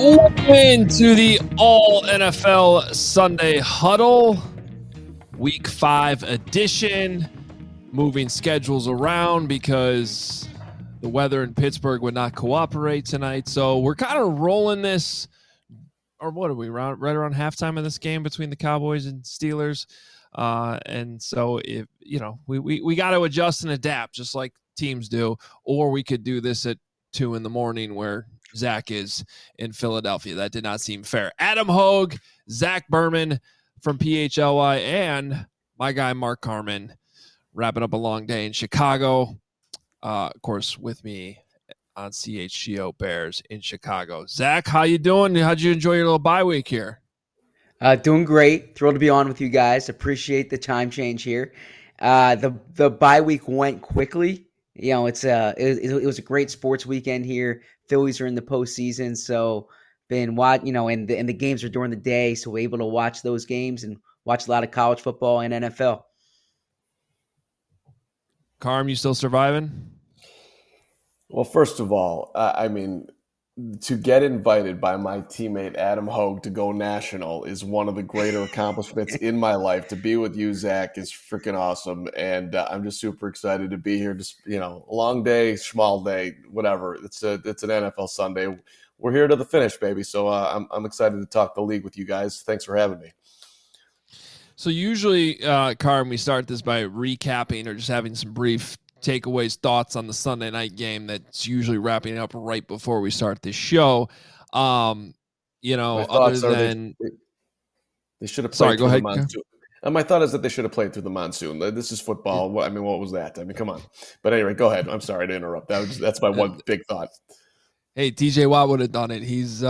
Into the All NFL Sunday Huddle, Week 5 edition. Moving schedules around because the weather in Pittsburgh would not cooperate tonight. So we're kind of rolling this, or what are we, right around halftime of this game between the Cowboys and Steelers. And so if we got to adjust and adapt just like teams do, or we could do this at 2 a.m. where Zach is in Philadelphia. That did not seem fair. Adam Hogue, Zach Berman from PHLY, and my guy Mark Carman wrapping up a long day in Chicago. Of course, with me on CHGO Bears in Chicago. Zach, how you doing? How'd you enjoy your little bye week here? Doing great. Thrilled to be on with you guys. Appreciate the time change here. The bye week went quickly. You know, it was a great sports weekend here. Phillies are in the postseason, so and the games are during the day, so we're able to watch those games and watch a lot of college football and NFL. Carm, you still surviving? Well, first of all, to get invited by my teammate Adam Hogue to go national is one of the greater accomplishments in my life. To be with you, Zach, is freaking awesome, and I'm just super excited to be here. Just long day, small day, whatever. It's an NFL Sunday. We're here to the finish, baby. So I'm excited to talk the league with you guys. Thanks for having me. So usually, Carm, we start this by recapping or just having some brief takeaways, thoughts on the Sunday night game that's usually wrapping up right before we start this show. Other than they should have played. Sorry, go ahead. The monsoon. My thought is that they should have played through the monsoon. This is football. What was that? Come on. But anyway, go ahead. I'm sorry to interrupt. That's my one big thought. Hey, TJ Watt would have done it. He's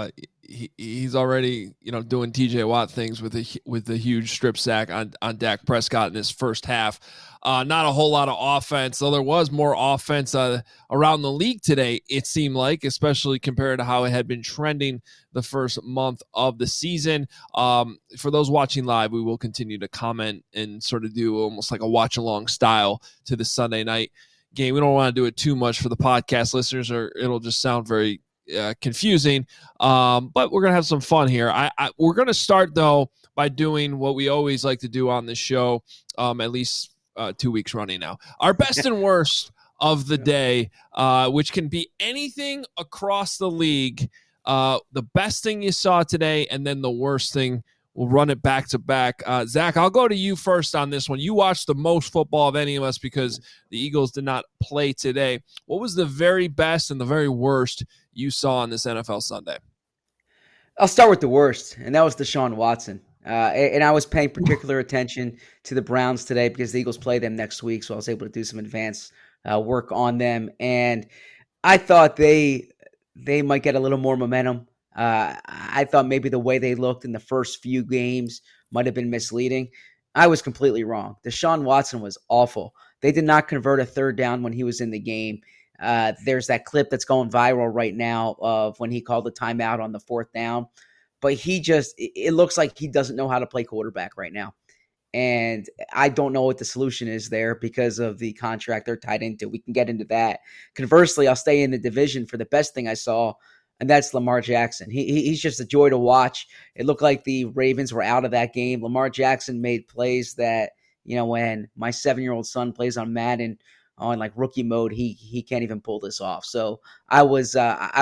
already doing TJ Watt things with the huge strip sack on Dak Prescott in his first half. Not a whole lot of offense, though there was more offense around the league today, it seemed like, especially compared to how it had been trending the first month of the season. For those watching live, we will continue to comment and sort of do almost like a watch-along style to the Sunday night game. We don't want to do it too much for the podcast listeners, or it'll just sound very confusing. But we're going to have some fun here. We're going to start, though, by doing what we always like to do on this show, at least 2 weeks running now. Our best and worst of the day, which can be anything across the league. The best thing you saw today, and then the worst thing. We'll run it back to back. Zach, I'll go to you first on this one. You watched the most football of any of us because the Eagles did not play today. What was the very best and the very worst you saw on this NFL Sunday? I'll start with the worst, and that was Deshaun Watson. And I was paying particular attention to the Browns today because the Eagles play them next week, so I was able to do some advanced work on them. And I thought they might get a little more momentum. I thought maybe the way they looked in the first few games might have been misleading. I was completely wrong. Deshaun Watson was awful. They did not convert a third down when he was in the game. There's that clip that's going viral right now of when he called the timeout on the fourth down. But it looks like he doesn't know how to play quarterback right now. And I don't know what the solution is there because of the contract they're tied into. We can get into that. Conversely, I'll stay in the division for the best thing I saw, and that's Lamar Jackson. He's just a joy to watch. It looked like the Ravens were out of that game. Lamar Jackson made plays that, when my 7-year-old son plays on Madden on like rookie mode, he can't even pull this off. So it was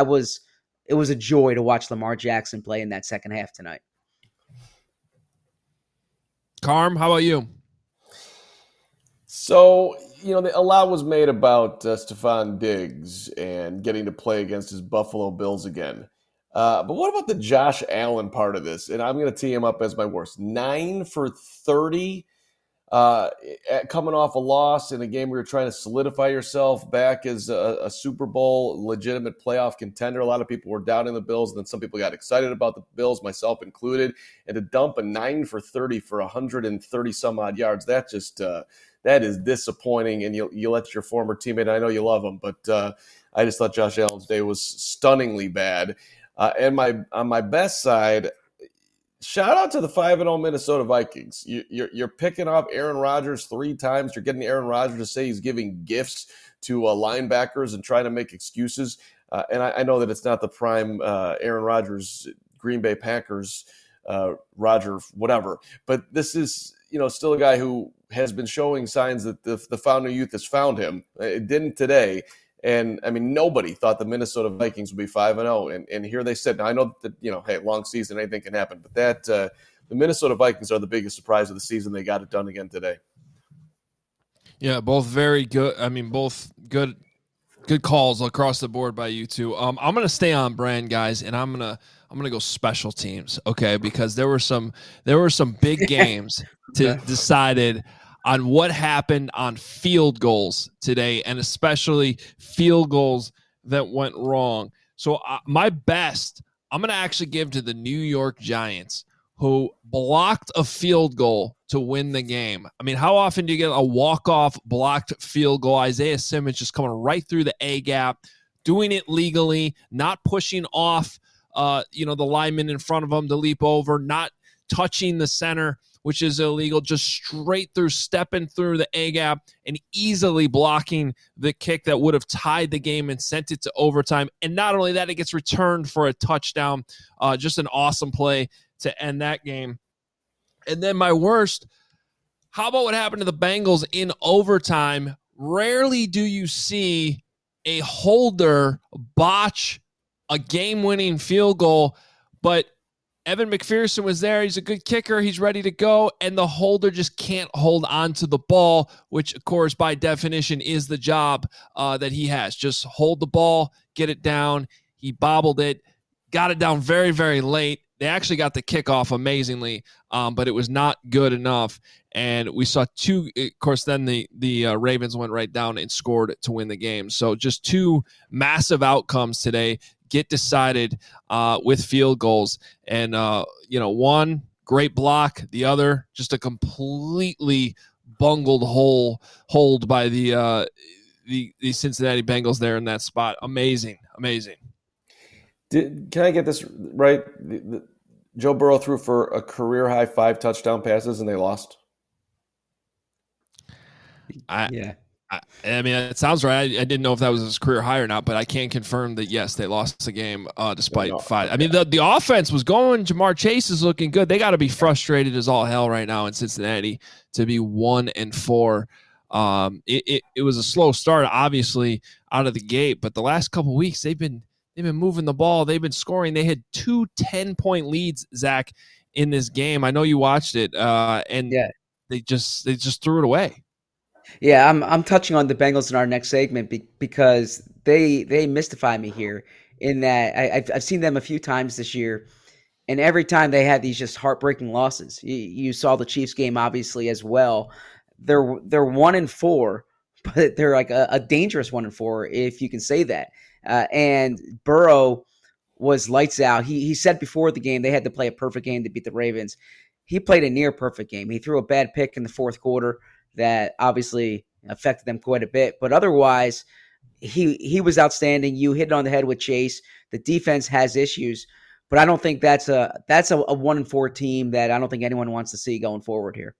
a joy to watch Lamar Jackson play in that second half tonight. Carm, how about you? So, a lot was made about Stephon Diggs and getting to play against his Buffalo Bills again. But what about the Josh Allen part of this? And I'm going to tee him up as my worst. 9 for 30, coming off a loss in a game where you're trying to solidify yourself back as a Super Bowl legitimate playoff contender. A lot of people were doubting the Bills, and then some people got excited about the Bills, myself included. And to dump a 9 for 30 for 130 some odd yards, that is disappointing, and you let your former teammate, I know you love him, but I just thought Josh Allen's day was stunningly bad. And on my best side, shout out to the 5-0 Minnesota Vikings. You're picking up Aaron Rodgers 3 times. You're getting Aaron Rodgers to say he's giving gifts to linebackers and trying to make excuses. And I know that it's not the prime Aaron Rodgers, Green Bay Packers, Roger, whatever. But this is, still a guy who has been showing signs that the founding youth has found him. It didn't today. And, I mean, nobody thought the Minnesota Vikings would be 5-0. And here they sit. Now, I know that, hey, long season, anything can happen. But the Minnesota Vikings are the biggest surprise of the season. They got it done again today. Yeah, both very good. I mean, both good calls across the board by you two. I'm going to stay on brand, guys, and I'm going to go special teams, okay? Because there were some big games decided on what happened on field goals today, and especially field goals that went wrong. So my best, I'm going to actually give to the New York Giants, who blocked a field goal to win the game. I mean, how often do you get a walk-off blocked field goal? Isaiah Simmons just coming right through the A-gap, doing it legally, not pushing off the lineman in front of him to leap over, not touching the center, which is illegal, just straight through, stepping through the A-gap and easily blocking the kick that would have tied the game and sent it to overtime. And not only that, it gets returned for a touchdown. Just an awesome play to end that game. And then my worst, how about what happened to the Bengals in overtime? Rarely do you see a holder botch a game-winning field goal, but Evan McPherson was there. He's a good kicker. He's ready to go, and the holder just can't hold on to the ball, which, of course, by definition is the job that he has. Just hold the ball, get it down. He bobbled it, got it down very, very late. They actually got the kickoff amazingly, but it was not good enough. And we saw two, of course, then the Ravens went right down and scored to win the game. So just two massive outcomes today get decided with field goals. And, one great block, the other just a completely bungled hold by the Cincinnati Bengals there in that spot. Amazing. Can I get this right? Joe Burrow threw for a career-high 5 touchdown passes, and they lost? I mean, it sounds right. I didn't know if that was his career high or not, but I can confirm that, yes, they lost the game despite 5. I mean, the offense was going. Jamar Chase is looking good. They got to be frustrated as all hell right now in Cincinnati to be 1-4. It was a slow start, obviously, out of the gate, but the last couple of weeks they've been moving the ball. They've been scoring. They had 2 10-point leads, Zach, in this game. I know you watched it, and they just threw it away. Yeah, I'm touching on the Bengals in our next segment because they mystify me here in that I've seen them a few times this year, and every time they had these just heartbreaking losses. You saw the Chiefs game obviously as well. They're 1-4, but they're like a dangerous 1-4 if you can say that. And Burrow was lights out. He said before the game they had to play a perfect game to beat the Ravens. He played a near perfect game. He threw a bad pick in the fourth quarter that obviously affected them quite a bit. But otherwise, he was outstanding. You hit it on the head with Chase. The defense has issues, but I don't think that's a 1-4 team that I don't think anyone wants to see going forward here.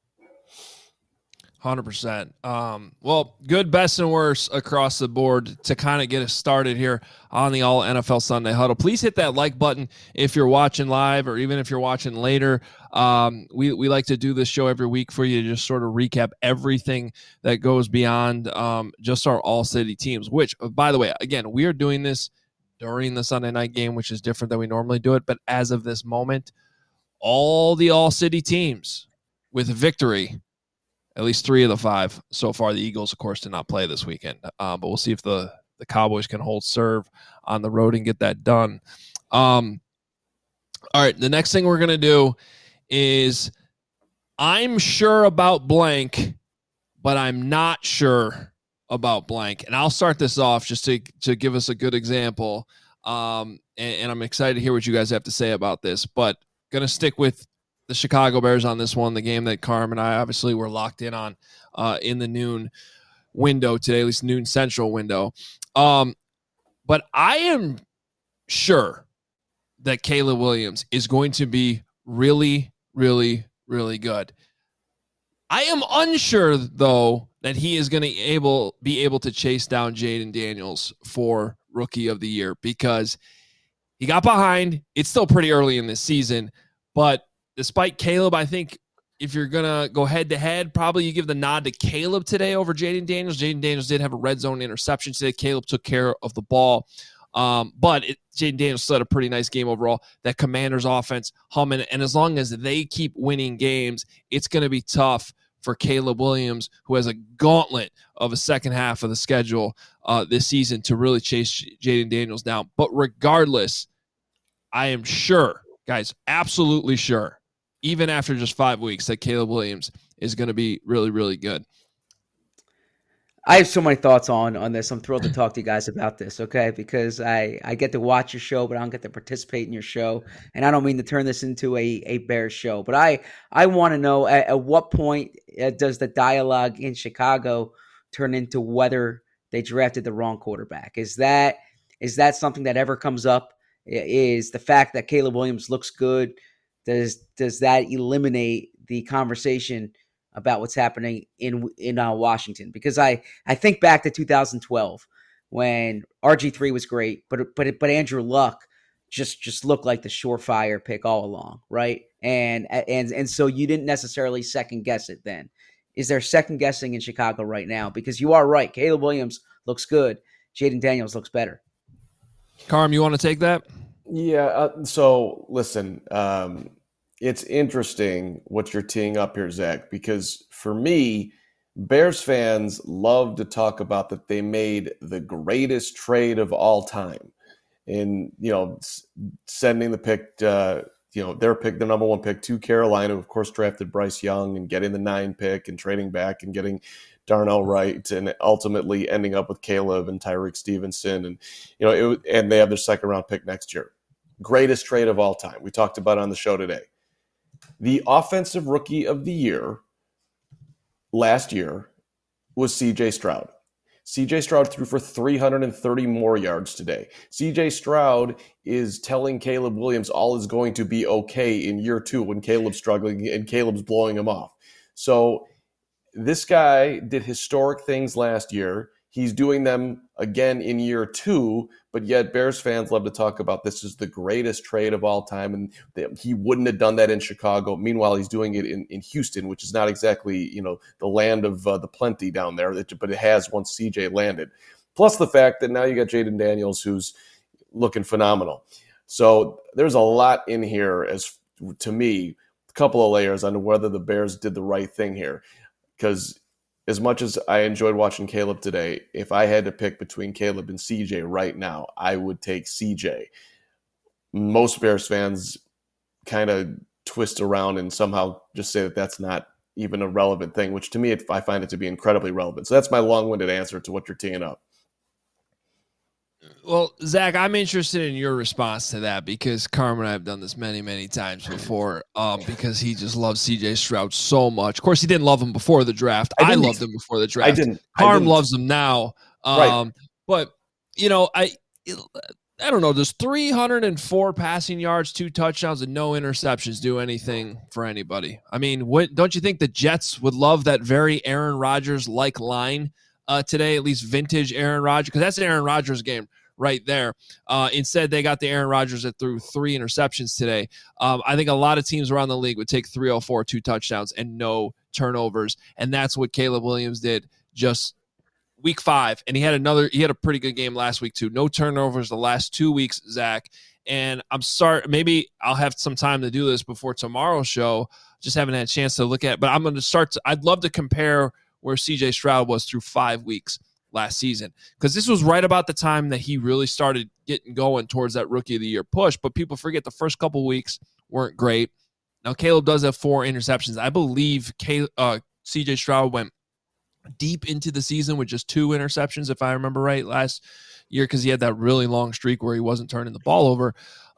100%. Well, good, best, and worst across the board to kind of get us started here on the All NFL Sunday Huddle. Please hit that like button if you're watching live or even if you're watching later. We like to do this show every week for you to just sort of recap everything that goes beyond just our all-city teams, which, by the way, again, we are doing this during the Sunday night game, which is different than we normally do it. But as of this moment, all the all-city teams with a victory, at least 3 of the 5 so far. The Eagles, of course, did not play this weekend, but we'll see if the Cowboys can hold serve on the road and get that done. All right, the next thing we're going to do is I'm sure about blank, but I'm not sure about blank. And I'll start this off just to give us a good example, and I'm excited to hear what you guys have to say about this, but going to stick with the Chicago Bears on this one, the game that Carm and I obviously were locked in on in the noon window today, at least noon central window. But I am sure that Caleb Williams is going to be really, really, really good. I am unsure, though, that he is going to be able to chase down Jaden Daniels for rookie of the year because he got behind. It's still pretty early in this season, but despite Caleb, I think if you're going to go head-to-head, probably you give the nod to Caleb today over Jayden Daniels. Jayden Daniels did have a red zone interception today. Caleb took care of the ball. But Jayden Daniels still had a pretty nice game overall. That Commanders offense humming. And as long as they keep winning games, it's going to be tough for Caleb Williams, who has a gauntlet of a second half of the schedule this season to really chase Jayden Daniels down. But regardless, I am sure, guys, absolutely sure, even after just 5 weeks, that Caleb Williams is going to be really, really good. I have so many thoughts on this. I'm thrilled to talk to you guys about this, okay? Because I get to watch your show, but I don't get to participate in your show. And I don't mean to turn this into a Bears show. But I want to know at what point does the dialogue in Chicago turn into whether they drafted the wrong quarterback? Is that something that ever comes up? Is the fact that Caleb Williams looks good, does that eliminate the conversation about what's happening in Washington? Because I think back to 2012 when RG3 was great, but Andrew Luck just looked like the surefire pick all along, right? And so you didn't necessarily second guess it then. Is there second guessing in Chicago right now? Because you are right, Caleb Williams looks good, Jayden Daniels looks better. Carm, you want to take that? Yeah. So listen, it's interesting what you're teeing up here, Zach, because for me, Bears fans love to talk about that they made the greatest trade of all time in, sending the pick, their number one pick to Carolina, who of course drafted Bryce Young, and getting the 9 pick and trading back and getting Darnell Wright, and ultimately ending up with Caleb and Tyreek Stevenson. And, and they have their second round pick next year. Greatest trade of all time. We talked about it on the show today. The offensive rookie of the year last year was C.J. Stroud. C.J. Stroud threw for 330 more yards today. C.J. Stroud is telling Caleb Williams all is going to be okay in year 2 when Caleb's struggling and Caleb's blowing him off. So this guy did historic things last year. He's doing them again in year 2, but yet Bears fans love to talk about this is the greatest trade of all time, and he wouldn't have done that in Chicago. Meanwhile, he's doing it in Houston, which is not exactly the land of the plenty down there, but it has once CJ landed. Plus the fact that now you got Jayden Daniels, who's looking phenomenal. So there's a lot in here, as to me, a couple of layers on whether the Bears did the right thing here, because as much as I enjoyed watching Caleb today, if I had to pick between Caleb and CJ right now, I would take CJ. Most Bears fans kind of twist around and somehow just say that that's not even a relevant thing, which to me, I find it to be incredibly relevant. So that's my long-winded answer to what you're teeing up. Well, Zach, I'm interested in your response to that because Carm and I have done this many, many times before because he just loves C.J. Stroud so much. Of course, he didn't love him before the draft. I loved him before the draft. I didn't. Carm loves him now. Right. But, I don't know. Does 304 passing yards, 2 touchdowns, and no interceptions do anything for anybody? I mean, don't you think the Jets would love that very Aaron Rodgers-like line today, at least vintage Aaron Rodgers? Because that's an Aaron Rodgers game right there. Instead, they got the Aaron Rodgers that threw 3 interceptions today. I think a lot of teams around the league would take 304, 2 touchdowns, and no turnovers. And that's what Caleb Williams did just week 5. And he had a pretty good game last week too. No turnovers the last 2 weeks, Zach. And I'm sorry, maybe I'll have some time to do this before tomorrow's show. Just haven't had a chance to look at it. But I'm going to I'd love to compare where CJ Stroud was through 5 weeks last season, because this was right about the time that he really started getting going towards that rookie of the year push. But people forget the first couple weeks weren't great. Now Caleb does have 4 interceptions. I believe CJ Stroud went deep into the season with just 2 interceptions, if I remember right, last year, because he had that really long streak where he wasn't turning the ball over.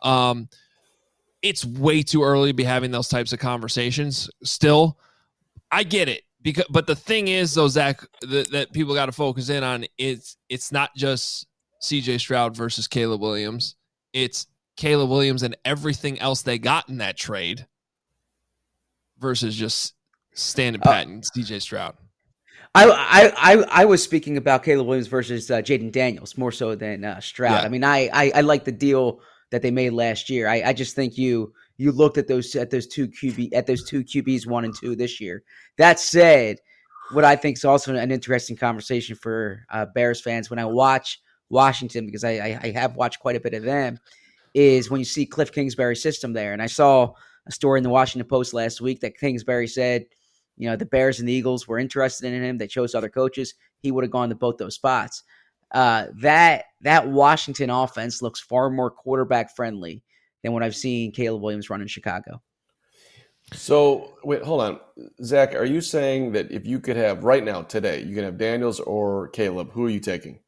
It's way too early to be having those types of conversations still. I get it. But the thing is, though, Zach, that people got to focus in on, it's not just C.J. Stroud versus Caleb Williams. It's Caleb Williams and everything else they got in that trade versus just standing pat and C.J. Stroud. I was speaking about Caleb Williams versus Jaden Daniels more so than Stroud. Yeah. I mean, I like the deal that they made last year. I just think you looked at those two QBs 1 and 2 this year. That said, what I think is also an interesting conversation for Bears fans when I watch Washington, because I have watched quite a bit of them, is when you see Cliff Kingsbury's system there. And I saw a story in the Washington Post last week that Kingsbury said, the Bears and the Eagles were interested in him. They chose other coaches. He would have gone to both those spots. That Washington offense looks far more quarterback friendly than what I've seen Caleb Williams run in Chicago. So, wait, hold on. Zach, are you saying that if you could have right now, today, you can have Daniels or Caleb, who are you taking?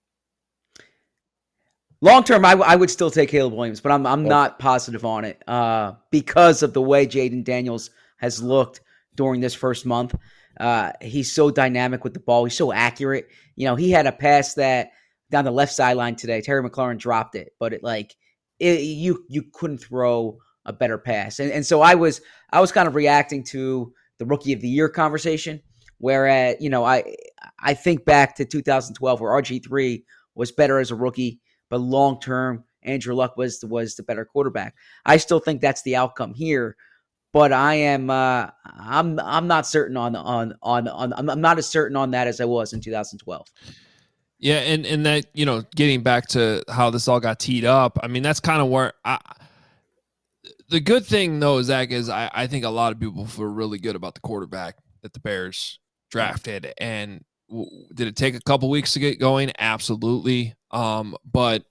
Long term, I would still take Caleb Williams, but I'm not positive on it because of the way Jaden Daniels has looked during this first month. He's so dynamic with the ball. He's so accurate. He had a pass that down the left sideline today. Terry McLaurin dropped it, but you couldn't throw a better pass. And so I was kind of reacting to the Rookie of the Year conversation, whereas I think back to 2012 where RG3 was better as a rookie, but long term Andrew Luck was the better quarterback. I still think that's the outcome here. But I am I'm not certain on I'm not as certain on that as I was in 2012. Yeah, and that, getting back to how this all got teed up, I mean, that's kind of where the good thing though, Zach, is I think a lot of people feel really good about the quarterback that the Bears drafted. And did it take a couple weeks to get going? Absolutely. But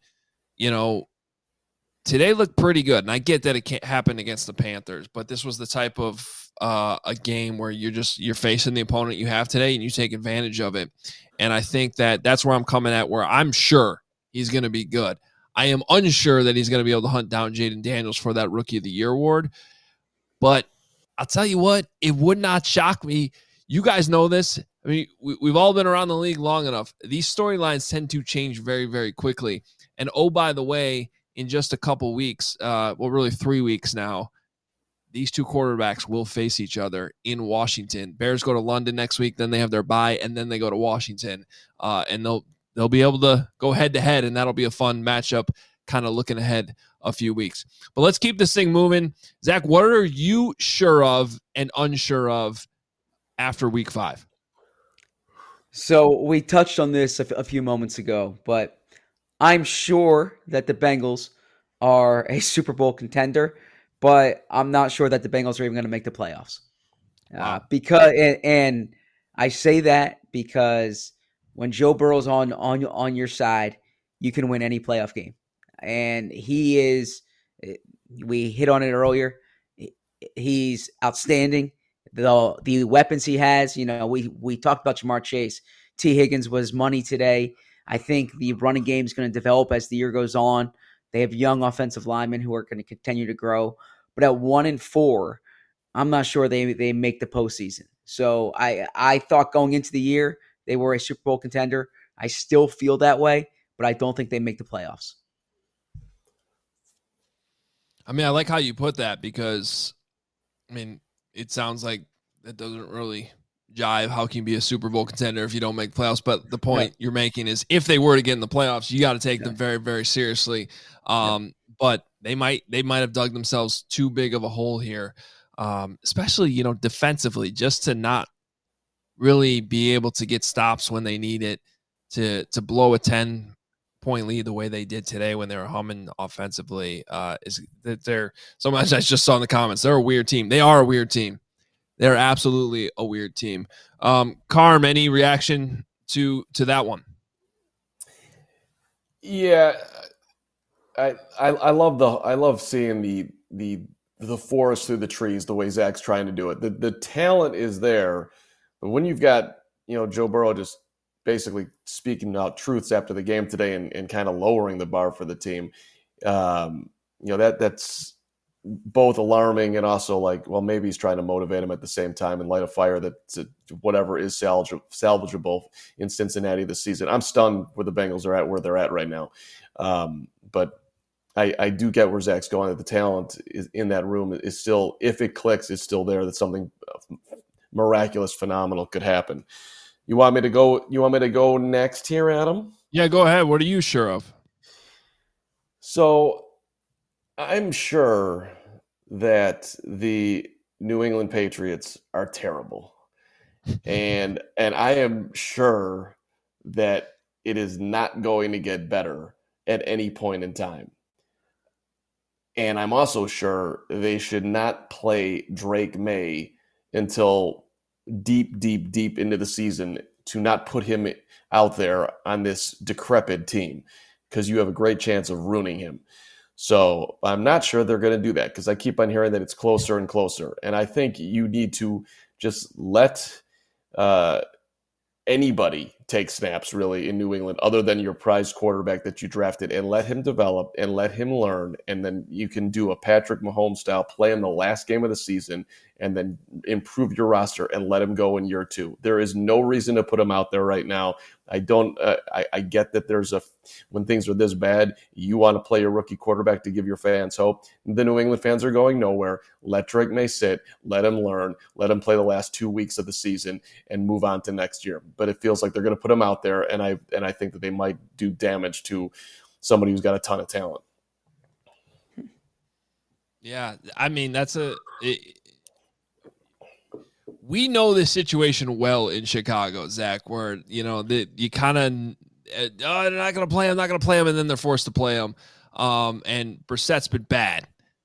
today looked pretty good, and I get that it can't happen against the Panthers, but this was the type of a game where you're facing the opponent you have today, and you take advantage of it. And I think that's where I'm coming at, where I'm sure he's going to be good. I am unsure that he's going to be able to hunt down Jaden Daniels for that Rookie of the Year award, but I'll tell you what, it would not shock me. You guys know this. I mean, we've all been around the league long enough. These storylines tend to change very, very quickly. And oh, by the way, in just a couple weeks, really 3 weeks now, these two quarterbacks will face each other in Washington. Bears go to London next week, then they have their bye, and then they go to Washington. And they'll be able to go head-to-head, and that'll be a fun matchup, kind of looking ahead a few weeks. But let's keep this thing moving. Zach, what are you sure of and unsure of after Week 5? So we touched on this a few moments ago, but I'm sure that the Bengals are a Super Bowl contender, but I'm not sure that the Bengals are even going to make the playoffs. Wow. And I say that because when Joe Burrow's on your side, you can win any playoff game. And he is, we hit on it earlier, he's outstanding. The weapons he has, we talked about Jamar Chase. T. Higgins was money today. I think the running game is going to develop as the year goes on. They have young offensive linemen who are going to continue to grow. But at 1-4, I'm not sure they make the postseason. So I thought going into the year they were a Super Bowl contender. I still feel that way, but I don't think they make the playoffs. I mean, I like how you put that because, it sounds like that doesn't really jive. How can you be a Super Bowl contender if you don't make playoffs? But the point you're making is if they were to get in the playoffs, you got to take them very, very seriously. But they might have dug themselves too big of a hole here, especially, defensively, just to not really be able to get stops when they need it to blow a 10-point lead the way they did today when they were humming offensively. Is that they're so much I just saw in the comments. They're a weird team. They are a weird team. They're absolutely a weird team. Carm, any reaction to that one? Yeah, I love seeing the forest through the trees the way Zach's trying to do it. The talent is there, but when you've got Joe Burrow just basically speaking out truths after the game today and kind of lowering the bar for the team, that's both alarming and also like, well, maybe he's trying to motivate him at the same time and light a fire that whatever is salvageable in Cincinnati this season. I'm stunned where the Bengals are at, where they're at right now. But I do get where Zach's going, that the talent is in that room is still, if it clicks, it's still there, that something miraculous, phenomenal could happen. You want me to go? You want me to go next here, Adam? Yeah, go ahead. What are you sure of? So I'm sure that the New England Patriots are terrible. And I am sure that it is not going to get better at any point in time. And I'm also sure they should not play Drake May until deep, deep, deep into the season to not put him out there on this decrepit team, because you have a great chance of ruining him. So I'm not sure they're going to do that, because I keep on hearing that it's closer and closer. And I think you need to just let anybody take snaps really in New England other than your prized quarterback that you drafted, and let him develop and let him learn. And then you can do a Patrick Mahomes style play in the last game of the season and then improve your roster and let him go in year 2. There is no reason to put him out there right now. I don't. I get that when things are this bad, you want to play your rookie quarterback to give your fans hope. The New England fans are going nowhere. Let Drake May sit. Let him learn. Let him play the last 2 weeks of the season and move on to next year. But it feels like they're going to put him out there, and I think that they might do damage to somebody who's got a ton of talent. Yeah, I mean we know this situation well in Chicago, Zach, where, you kind of, they're not going to play him, and then they're forced to play him. And Brissett's been bad.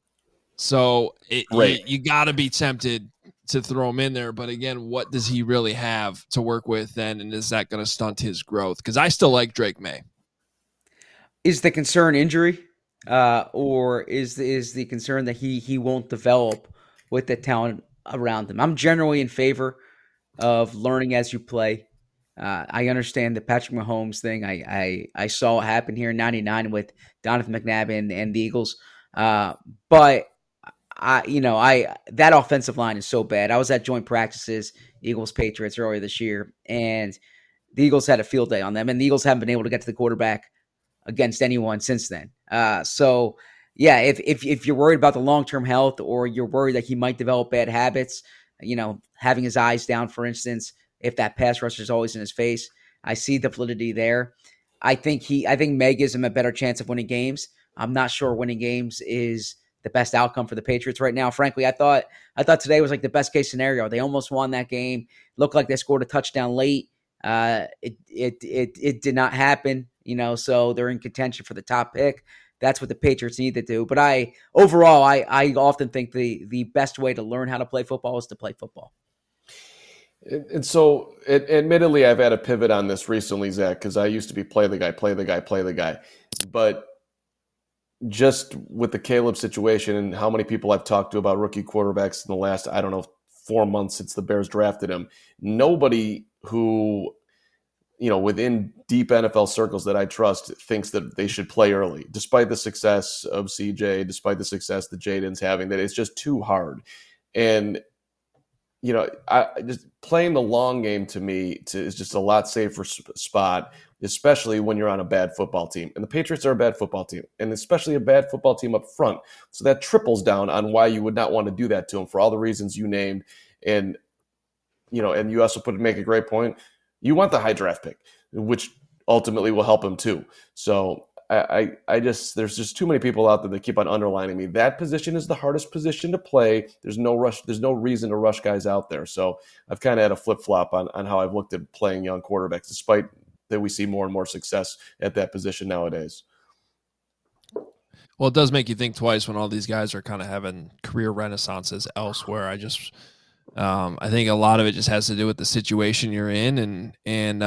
So you got to be tempted to throw him in there. But again, what does he really have to work with then? And is that going to stunt his growth? Because I still like Drake May. Is the concern injury? Or is the concern that he won't develop with the talent around him? I'm generally in favor of learning as you play. I understand the Patrick Mahomes thing. I saw it happen here in '99 with Donovan McNabb and the Eagles. But that offensive line is so bad. I was at joint practices, Eagles Patriots earlier this year, and the Eagles had a field day on them, and the Eagles haven't been able to get to the quarterback against anyone since then. So yeah, if you're worried about the long-term health, or you're worried that he might develop bad habits, having his eyes down, for instance, if that pass rusher is always in his face, I see the validity there. I think May gives him a better chance of winning games. I'm not sure winning games is the best outcome for the Patriots right now. Frankly, I thought today was like the best case scenario. They almost won that game. Looked like they scored a touchdown late. It did not happen. So they're in contention for the top pick. That's what the Patriots need to do. But I often think the best way to learn how to play football is to play football. And so, admittedly, I've had a pivot on this recently, Zach, because I used to be play the guy. But just with the Caleb situation and how many people I've talked to about rookie quarterbacks in the last, 4 months since the Bears drafted him, nobody who, within deep NFL circles that I trust thinks that they should play early, despite the success of CJ, despite the success that Jaden's having, that it's just too hard. And, I just playing the long game to me is just a lot safer spot, especially when you're on a bad football team. And the Patriots are a bad football team, and especially a bad football team up front. So that triples down on why you would not want to do that to them for all the reasons you named. And, and you also make a great point. You want the high draft pick, which ultimately will help him too. So there's just too many people out there that keep on underlining me. That position is the hardest position to play. There's no rush. There's no reason to rush guys out there. So I've kind of had a flip flop on how I've looked at playing young quarterbacks, despite that we see more and more success at that position nowadays. Well, it does make you think twice when all these guys are kind of having career renaissances elsewhere. I think a lot of it just has to do with the situation you're in, and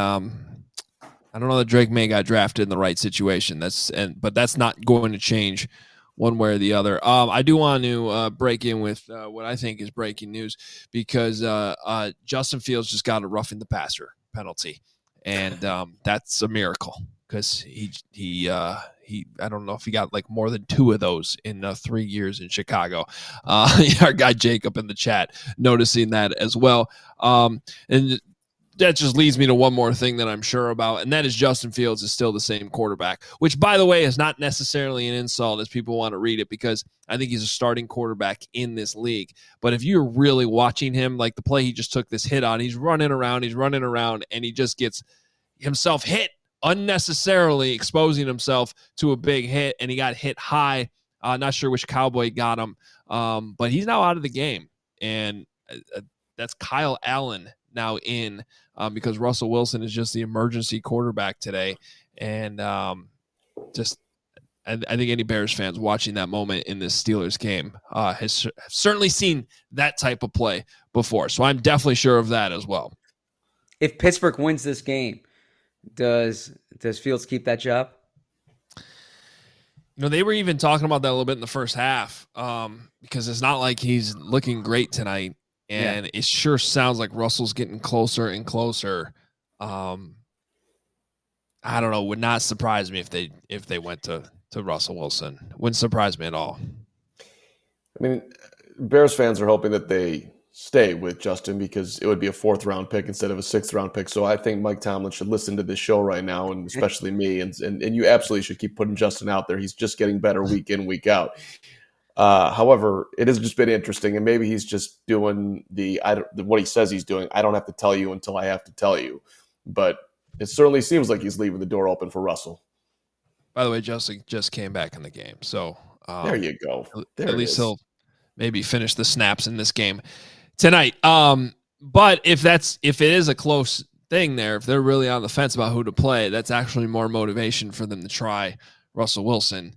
I don't know that Drake May got drafted in the right situation. But that's not going to change one way or the other. I do want to break in with what I think is breaking news, because Justin Fields just got a roughing the passer penalty, and that's a miracle, because he I don't know if he got like more than 2 of those in 3 years in Chicago. Our guy Jacob in the chat noticing that as well. And that just leads me to one more thing that I'm sure about, and that is Justin Fields is still the same quarterback, which, by the way, is not necessarily an insult as people want to read it, because I think he's a starting quarterback in this league. But if you're really watching him, like the play he just took this hit on, he's running around, and he just gets himself hit unnecessarily, exposing himself to a big hit, and he got hit high. Not sure which Cowboy got him, but he's now out of the game, and that's Kyle Allen now in, because Russell Wilson is just the emergency quarterback today. And I think any Bears fans watching that moment in this Steelers game has certainly seen that type of play before. So I'm definitely sure of that as well. If Pittsburgh wins this game, does Fields keep that job? They were even talking about that a little bit in the first half, because it's not like he's looking great tonight. And it sure sounds like Russell's getting closer and closer. I don't know. Would not surprise me if they went to Russell Wilson. Wouldn't surprise me at all. I mean, Bears fans are hoping that they stay with Justin because it would be a 4th-round pick instead of a 6th-round pick. So I think Mike Tomlin should listen to this show right now, and especially me. And you absolutely should keep putting Justin out there. He's just getting better week in, week out. However, it has just been interesting, and maybe he's just doing what he says he's doing. I don't have to tell you until I have to tell you, but it certainly seems like he's leaving the door open for Russell. By the way, Justin just came back in the game, so there you go. At least he'll maybe finish the snaps in this game tonight. But if it is a close thing there, if they're really on the fence about who to play, that's actually more motivation for them to try Russell Wilson.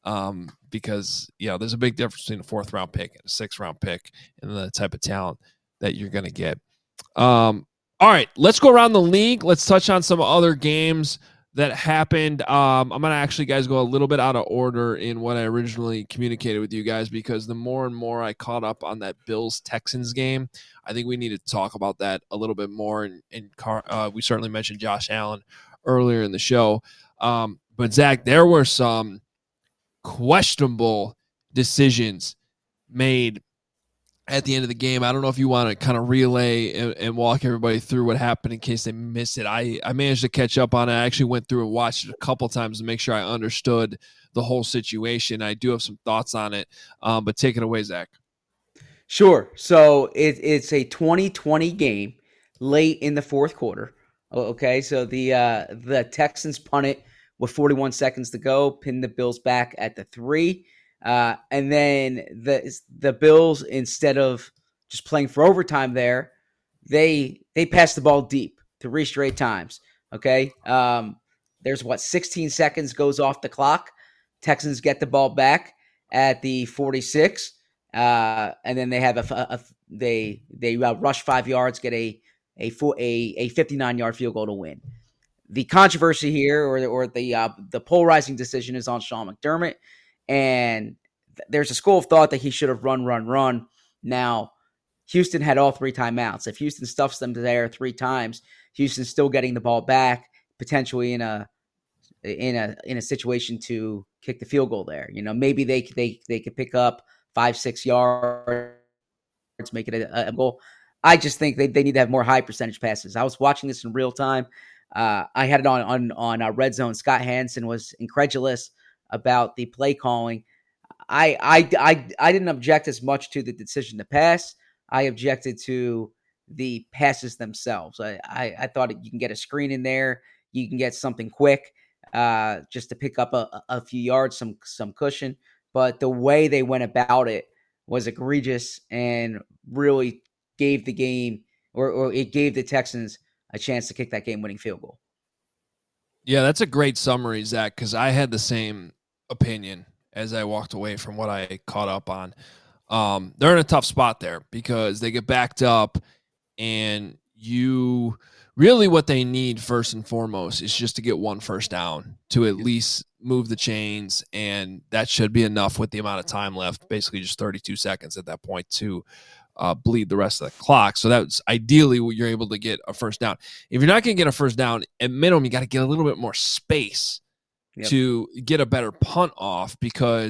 Because there's a big difference between a 4th-round pick and a 6th-round pick and the type of talent that you're going to get. All right, let's go around the league. Let's touch on some other games that happened. I'm going to actually, guys, go a little bit out of order in what I originally communicated with you guys, because the more and more I caught up on that Bills-Texans game, I think we need to talk about that a little bit more. And we certainly mentioned Josh Allen earlier in the show. But, Zach, there were some questionable decisions made at the end of the game. I don't know if you want to kind of relay and walk everybody through what happened in case they missed it. I managed to catch up on it. I actually went through and watched it a couple times to make sure I understood the whole situation. I do have some thoughts on it, but take it away, Zach. Sure. So it's a 2020 game late in the 4th quarter. Okay, so the Texans punt it with 41 seconds to go, pin the Bills back at the 3. And then the Bills, instead of just playing for overtime there, they pass the ball deep 3 straight times. Okay. There's 16 seconds goes off the clock. Texans get the ball back at the 46. And then they have they rush 5 yards, get a 59-yard field goal to win. The controversy here, or the polarizing decision, is on Sean McDermott, and there's a school of thought that he should have run. Now, Houston had all 3 timeouts. If Houston stuffs them there 3 times, Houston's still getting the ball back, potentially in a situation to kick the field goal there. Maybe they could pick up 5-6 yards, make it a goal. I just think they need to have more high percentage passes. I was watching this in real time. I had it on Red Zone. Scott Hansen was incredulous about the play calling. I didn't object as much to the decision to pass. I objected to the passes themselves. I thought you can get a screen in there. You can get something quick just to pick up a few yards, some cushion. But the way they went about it was egregious and really gave the game, or it gave the Texans a chance to kick that game-winning field goal. Yeah, that's a great summary, Zach, because I had the same opinion as I walked away from what I caught up on. They're in a tough spot there because they get backed up, and really what they need first and foremost is just to get 1 first down to at least move the chains, and that should be enough with the amount of time left, basically just 32 seconds at that point to bleed the rest of the clock. So that's ideally what you're able to get a first down. If you're not going to get a first down, at minimum, you got to get a little bit more space to get a better punt off, because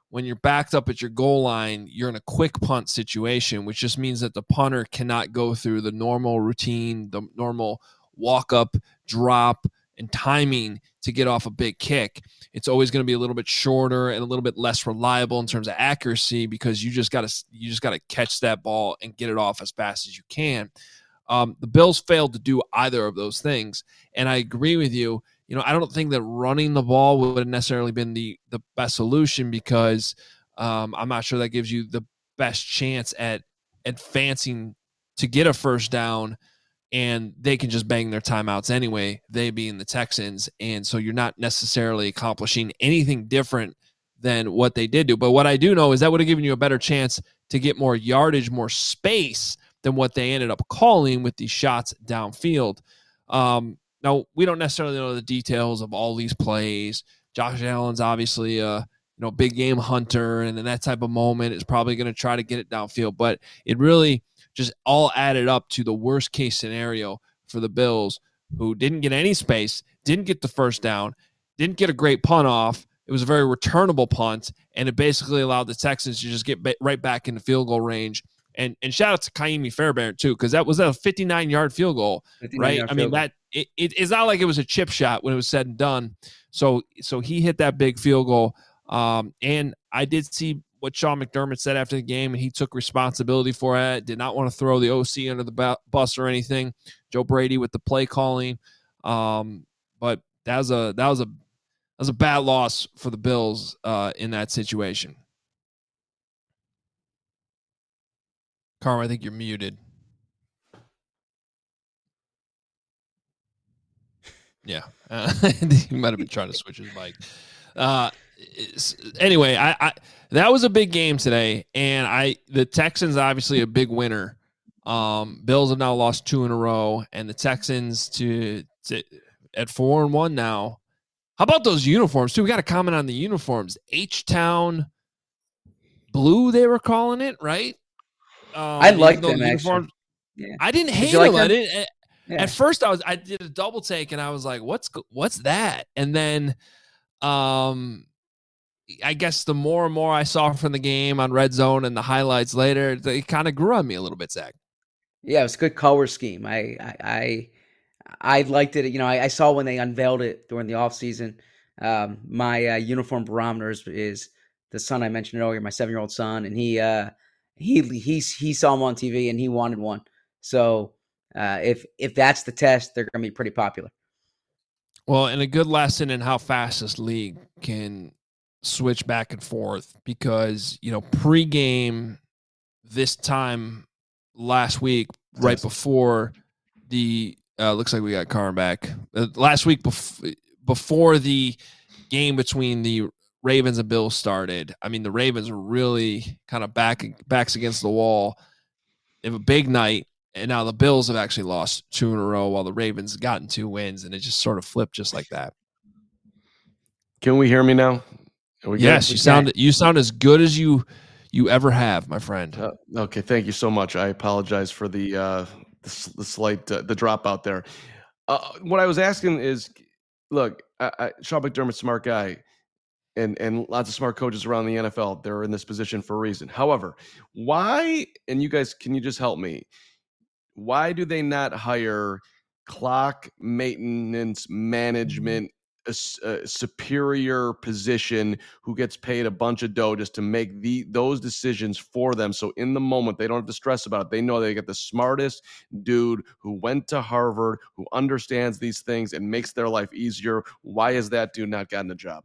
when you're backed up at your goal line, you're in a quick punt situation, which just means that the punter cannot go through the normal routine, the normal walk up, drop, and timing to get off a big kick. It's always going to be a little bit shorter and a little bit less reliable in terms of accuracy, because you just got to catch that ball and get it off as fast as you can. The Bills failed to do either of those things, and I agree with you. I don't think that running the ball would have necessarily been the best solution, because I'm not sure that gives you the best chance at advancing to get a first down, and they can just bang their timeouts anyway, they being the Texans. And so you're not necessarily accomplishing anything different than what they did do. But what I do know is that would have given you a better chance to get more yardage, more space than what they ended up calling with these shots downfield. Now, we don't necessarily know the details of all these plays. Josh Allen's obviously a big game hunter, and in that type of moment is probably going to try to get it downfield. But it really just all added up to the worst case scenario for the Bills, who didn't get any space, didn't get the first down, didn't get a great punt off. It was a very returnable punt, and it basically allowed the Texans to just get right back into field goal range. And shout out to Kaimi Fairbairn too, because that was a 59-yard field goal, right? I mean, that it's not like it was a chip shot when it was said and done. So he hit that big field goal. And I did see what Sean McDermott said after the game, and he took responsibility for it. Did not want to throw the OC under the bus or anything. Joe Brady with the play calling, but that was a bad loss for the Bills in that situation. Carl, I think you're muted. Yeah. He might have been trying to switch his mic. Anyway, I that was a big game today, and the Texans obviously a big winner. Bills have now lost 2 in a row, and the Texans at 4-1 now. How about those uniforms too? We got to comment on the uniforms. H-Town blue, they were calling it, right? I like them actually. Yeah. I didn't hate them. I didn't. Yeah. At first, I did a double take, and I was like, "What's that?" And then, I guess the more and more I saw from the game on Red Zone and the highlights later, they kind of grew on me a little bit, Zach. Yeah, it was a good color scheme. I liked it. I saw when they unveiled it during the offseason. My uniform barometer is the son I mentioned earlier, my 7-year-old son, and he saw them on TV and he wanted one. So if that's the test, they're going to be pretty popular. Well, and a good lesson in how fast this league can switch back and forth, because pregame this time last week, right before the looks like we got Carm back last week before the game between the Ravens and Bills started. I mean, the Ravens were really kind of backs against the wall. They have a big night, and now the Bills have actually lost 2 in a row while the Ravens have gotten 2 wins, and it just sort of flipped just like that. Can we hear me now? Yes, you sound as good as you ever have, my friend. Okay, thank you so much. I apologize for the slight the dropout there. What I was asking is, look, Sean McDermott's a smart guy, and lots of smart coaches around the NFL. They're in this position for a reason. However, why? And you guys, can you just help me? Why do they not hire clock maintenance management, a superior position who gets paid a bunch of dough just to make those decisions for them? So in the moment, they don't have to stress about it. They know they get the smartest dude who went to Harvard, who understands these things and makes their life easier. Why is that dude not gotten a job?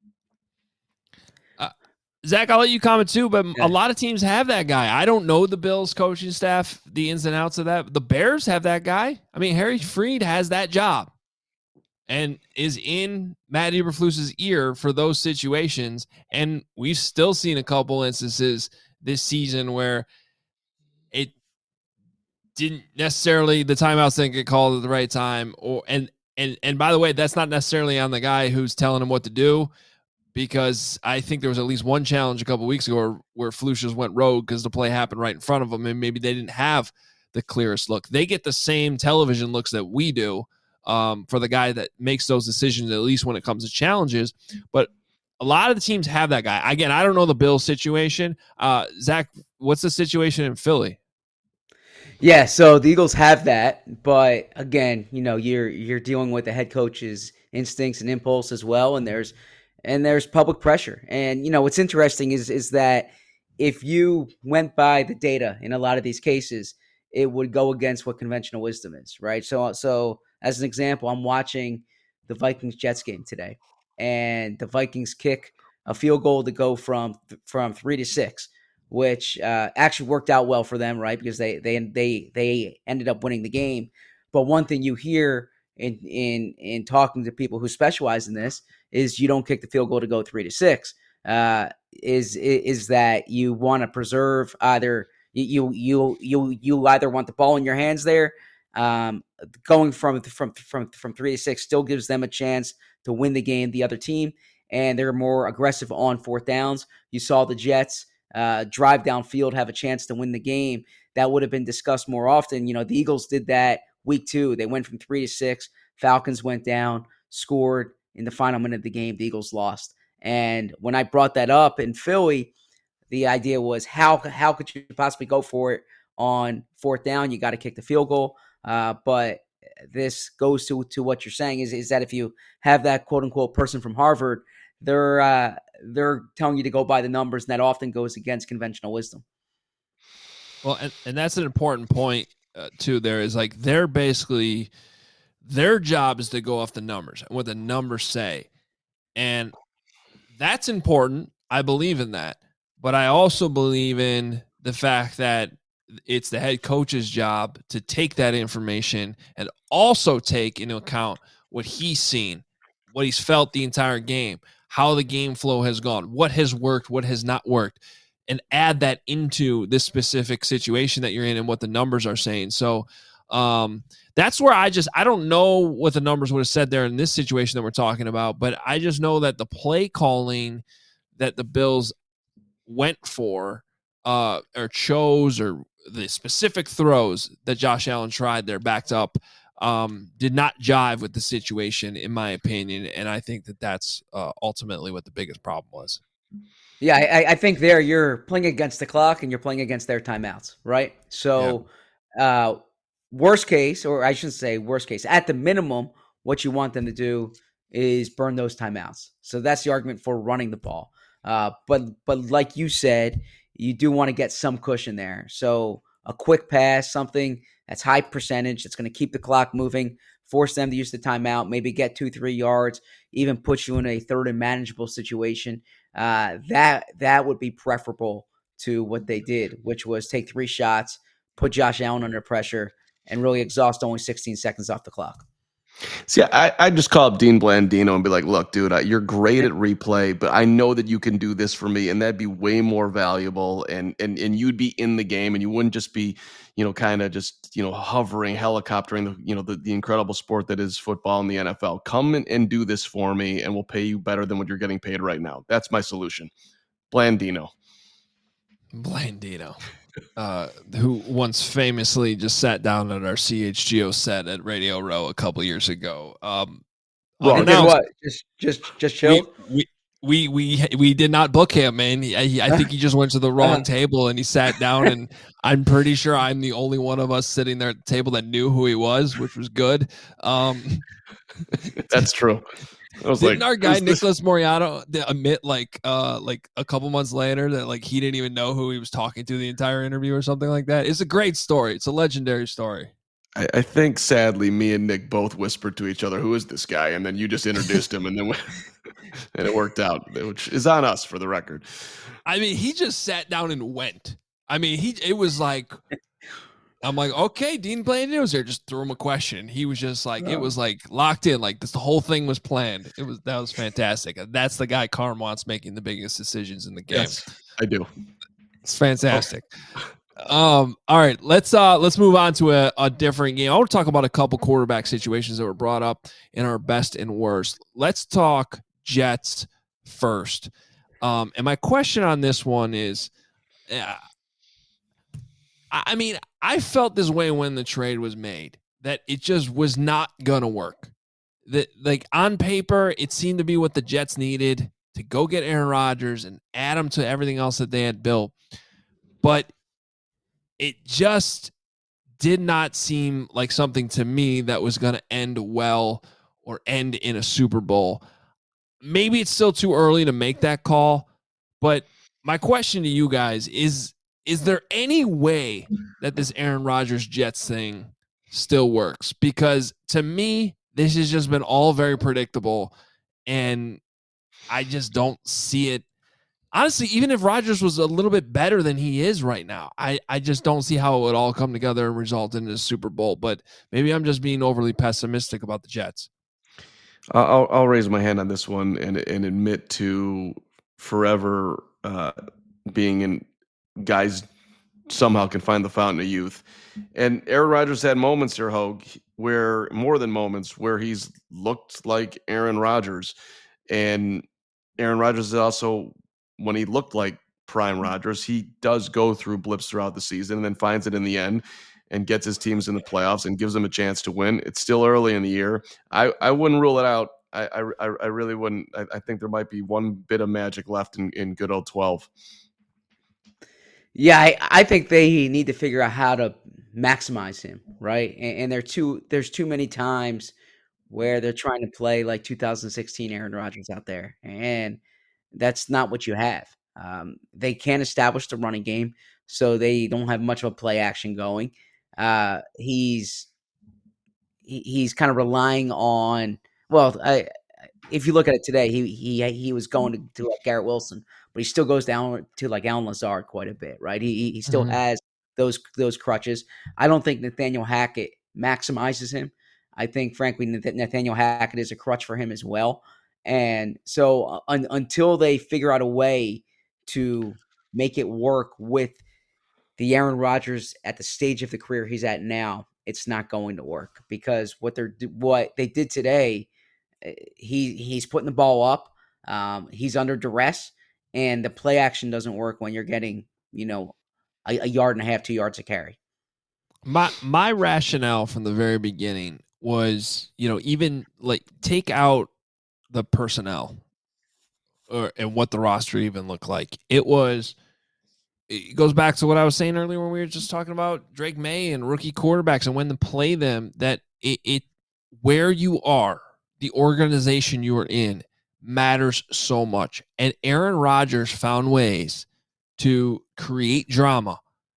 Zach, I'll let you comment too, but a lot of teams have that guy. I don't know the Bills coaching staff, the ins and outs of that. The Bears have that guy. I mean, Harry Freed has that job and is in Matt Eberflus's ear for those situations. And we've still seen a couple instances this season where it didn't necessarily, the timeouts didn't get called at the right time. And by the way, that's not necessarily on the guy who's telling him what to do, because I think there was at least one challenge a couple of weeks ago where Flus just went rogue because the play happened right in front of them, and maybe they didn't have the clearest look. They get the same television looks that we do for the guy that makes those decisions, at least when it comes to challenges. But a lot of the teams have that guy. Again, I don't know the Bills situation. Zach, what's the situation in Philly? Yeah, so the Eagles have that, but again, you're dealing with the head coach's instincts and impulse as well, and there's public pressure. And what's interesting is that if you went by the data in a lot of these cases, it would go against what conventional wisdom is, right? So as an example, I'm watching the Vikings-Jets game today, and the Vikings kick a field goal to go from 3-6, which actually worked out well for them, right? Because they ended up winning the game. But one thing you hear in talking to people who specialize in this is you don't kick the field goal to go 3-6. Is that you want to preserve either you either want the ball in your hands there. Going from 3-6 still gives them a chance to win the game, the other team, and they're more aggressive on fourth downs. You saw the Jets drive downfield, have a chance to win the game. That would have been discussed more often. The Eagles did that week 2. They went from 3-6. Falcons went down, scored in the final minute of the game. The Eagles lost. And when I brought that up in Philly, the idea was how could you possibly go for it on fourth down? You got to kick the field goal. But this goes to what you're saying is that if you have that quote unquote person from Harvard, they're telling you to go by the numbers, and that often goes against conventional wisdom. Well, and that's an important point too. There is like they're basically their job is to go off the numbers and what the numbers say, and that's important. I believe in that, but I also believe in the fact that it's the head coach's job to take that information and also take into account what he's seen, what he's felt the entire game, how the game flow has gone, what has worked, what has not worked, and add that into this specific situation that you're in and what the numbers are saying. So that's where I don't know what the numbers would have said there in this situation that we're talking about, but I just know that the play calling that the Bills went for or chose, or the specific throws that Josh Allen tried there backed up, did not jive with the situation, in my opinion. And I think that that's ultimately what the biggest problem was. Yeah, I think there you're playing against the clock and you're playing against their timeouts, right? So worst case, or I shouldn't say worst case, at the minimum, what you want them to do is burn those timeouts. So that's the argument for running the ball. But like you said, you do want to get some cushion there. So a quick pass, something that's high percentage, that's going to keep the clock moving, force them to use the timeout, maybe get 2-3 yards, even put you in a third and manageable situation. That would be preferable to what they did, which was take 3 shots, put Josh Allen under pressure, and really exhaust only 16 seconds off the clock. See, I just call up Dean Blandino and be like, look, dude, you're great at replay, but I know that you can do this for me, and that'd be way more valuable, and you'd be in the game, and you wouldn't just be, kind of just, hovering, helicoptering, the incredible sport that is football in the NFL. Come and do this for me, and we'll pay you better than what you're getting paid right now. That's my solution. Blandino. Who once famously just sat down at our CHGO set at Radio Row a couple years ago. What? Just chill. We did not book him, man. I think he just went to the wrong table and he sat down, and I'm pretty sure I'm the only one of us sitting there at the table that knew who he was, which was good. That's true. Didn't our guy Nicholas Moriato admit like a couple months later that like he didn't even know who he was talking to the entire interview or something like that? It's a great story. It's a legendary story. I think sadly me and Nick both whispered to each other, "Who is this guy?" And then you just introduced him, and then and it worked out, which is on us for the record. I mean, he just sat down and went. I mean, it was like. I'm like, okay, Dean Blandino's here. Just threw him a question. He was just like, It was like locked in. Like the whole thing was planned. That was fantastic. That's the guy Carm wants making the biggest decisions in the game. Yes, I do. It's fantastic. All right, let's move on to a different game. I want to talk about a couple quarterback situations that were brought up in our best and worst. Let's talk Jets first. And my question on this one is, I mean, I felt this way when the trade was made, that it just was not going to work. That, like, on paper, it seemed to be what the Jets needed. to go get Aaron Rodgers and add him to everything else that they had built. But it just did not seem like something to me that was going to end well or end in a Super Bowl. Maybe it's still too early to make that call, but my question to you guys is there any way that this Aaron Rodgers Jets thing still works? Because to me, this has just been all very predictable, and I just don't see it. Honestly, even if Rodgers was a little bit better than he is right now, I just don't see how it would all come together and result in a Super Bowl. But maybe I'm just being overly pessimistic about the Jets. I'll raise my hand on this one and admit to forever being in guys somehow can find the fountain of youth. And Aaron Rodgers had moments here, Hogue, where more than moments where he's looked like Aaron Rodgers. And Aaron Rodgers is also, when he looked like prime Rodgers, he does go through blips throughout the season and then finds it in the end and gets his teams in the playoffs and gives them a chance to win. It's still early in the year. I wouldn't rule it out. I really wouldn't. I think there might be one bit of magic left in good old 12. Yeah, I think they need to figure out how to maximize him, right? And there's too many times where they're trying to play like 2016 Aaron Rodgers out there, and that's not what you have. They can't establish the running game, so they don't have much of a play action going. He's kind of relying on, well, if you look at it today, he was going to like Garrett Wilson, but he still goes down to like Allen Lazard quite a bit, right? He still has those crutches. I don't think Nathaniel Hackett maximizes him. I think, frankly, Nathaniel Hackett is a crutch for him as well. And so until they figure out a way to make it work with the Aaron Rodgers at the stage of the career he's at now, it's not going to work, because what they did today, he's putting the ball up. He's under duress, and the play action doesn't work when you're getting, a yard and a half, 2 yards to carry. My rationale from the very beginning was, even like take out the personnel and what the roster even looked like. It goes back to what I was saying earlier when we were just talking about Drake May and rookie quarterbacks and when to play them, that it where you are, the organization you are in, matters so much. And Aaron Rodgers found ways to create drama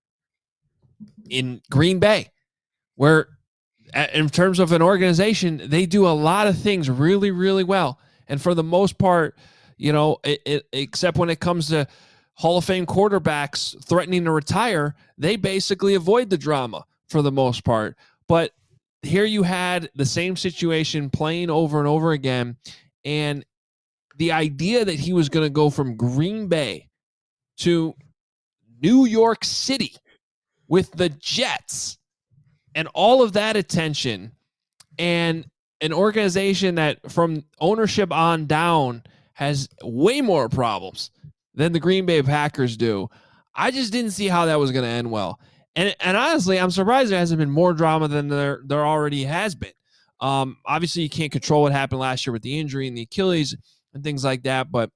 in Green Bay, where in terms of an organization, they do a lot of things really, really well. And for the most part, except when it comes to Hall of Fame quarterbacks threatening to retire, they basically avoid the drama for the most part. But here you had the same situation playing over and over again. And the idea that he was going to go from Green Bay to New York City with the Jets and all of that attention, and an organization that from ownership on down has way more problems than the Green Bay Packers do, I just didn't see how that was going to end well. And honestly, I'm surprised there hasn't been more drama than there already has been. Obviously, you can't control what happened last year with the injury and the Achilles and things like that, but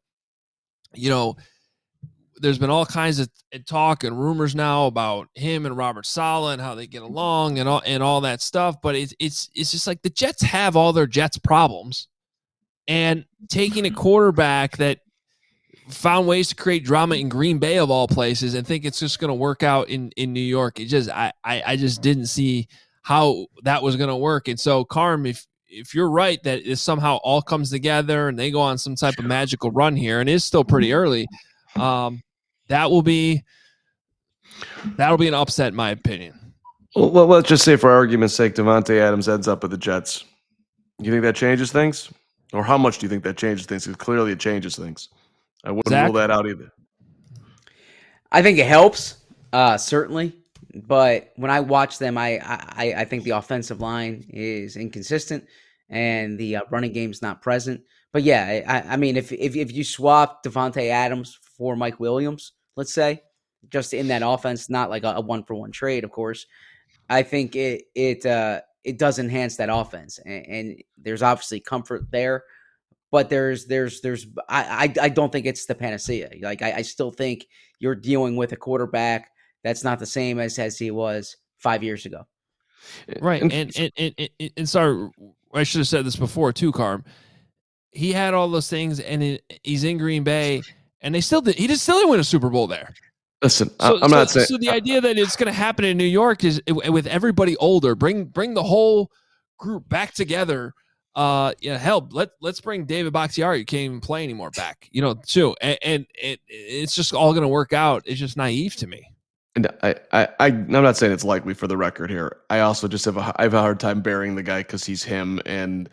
there's been all kinds of talk and rumors now about him and Robert Saleh and how they get along and all that stuff. But it's just like the Jets have all their Jets problems, and taking a quarterback that found ways to create drama in Green Bay of all places and think it's just going to work out in New York. I just didn't see how that was going to work. And so, Carm, if you're right that it somehow all comes together and they go on some type of magical run here, and it's still pretty early, that'll be an upset in my opinion. Well, let's just say for argument's sake, Davante Adams ends up with the Jets. You think that changes things? Or how much do you think that changes things? Because clearly it changes things. I wouldn't rule that out either. I think it helps, certainly. But when I watch them, I think the offensive line is inconsistent and the running game's not present. But yeah, I mean, if you swap Davante Adams for Mike Williams, let's say, just in that offense, not like a 1-for-1 trade, of course, I think it does enhance that offense, and there's obviously comfort there. but I don't think it's the panacea. Like I still think you're dealing with a quarterback that's not the same as he was 5 years ago. Right. And sorry, I should have said this before too, Carm. He had all those things, and he's in Green Bay, and he still didn't win a Super Bowl there. Listen, I'm not saying. So the idea that it's going to happen in New York is with everybody older, bring the whole group back together. Hell, let's bring David Bakhtiari, who can't even play anymore, back. Too, and it's just all going to work out. It's just naive to me. And I'm not saying it's likely for the record here. I also just have a hard time burying the guy because he's him, and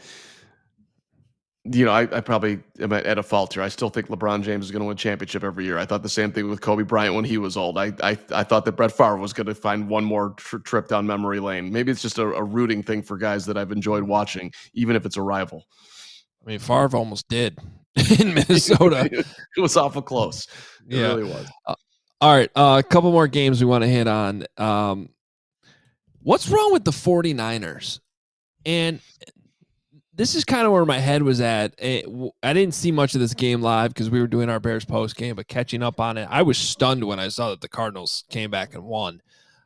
I probably am at a fault here. I still think LeBron James is going to win a championship every year. I thought the same thing with Kobe Bryant when he was old. I thought that Brett Favre was going to find one more trip down memory lane. Maybe it's just a rooting thing for guys that I've enjoyed watching, even if it's a rival. I mean, Favre almost did in Minnesota. It was awful close. It really was. All right, a couple more games we want to hit on. What's wrong with the 49ers? And this is kind of where my head was at. I didn't see much of this game live because we were doing our Bears post game, but catching up on it, I was stunned when I saw that the Cardinals came back and won.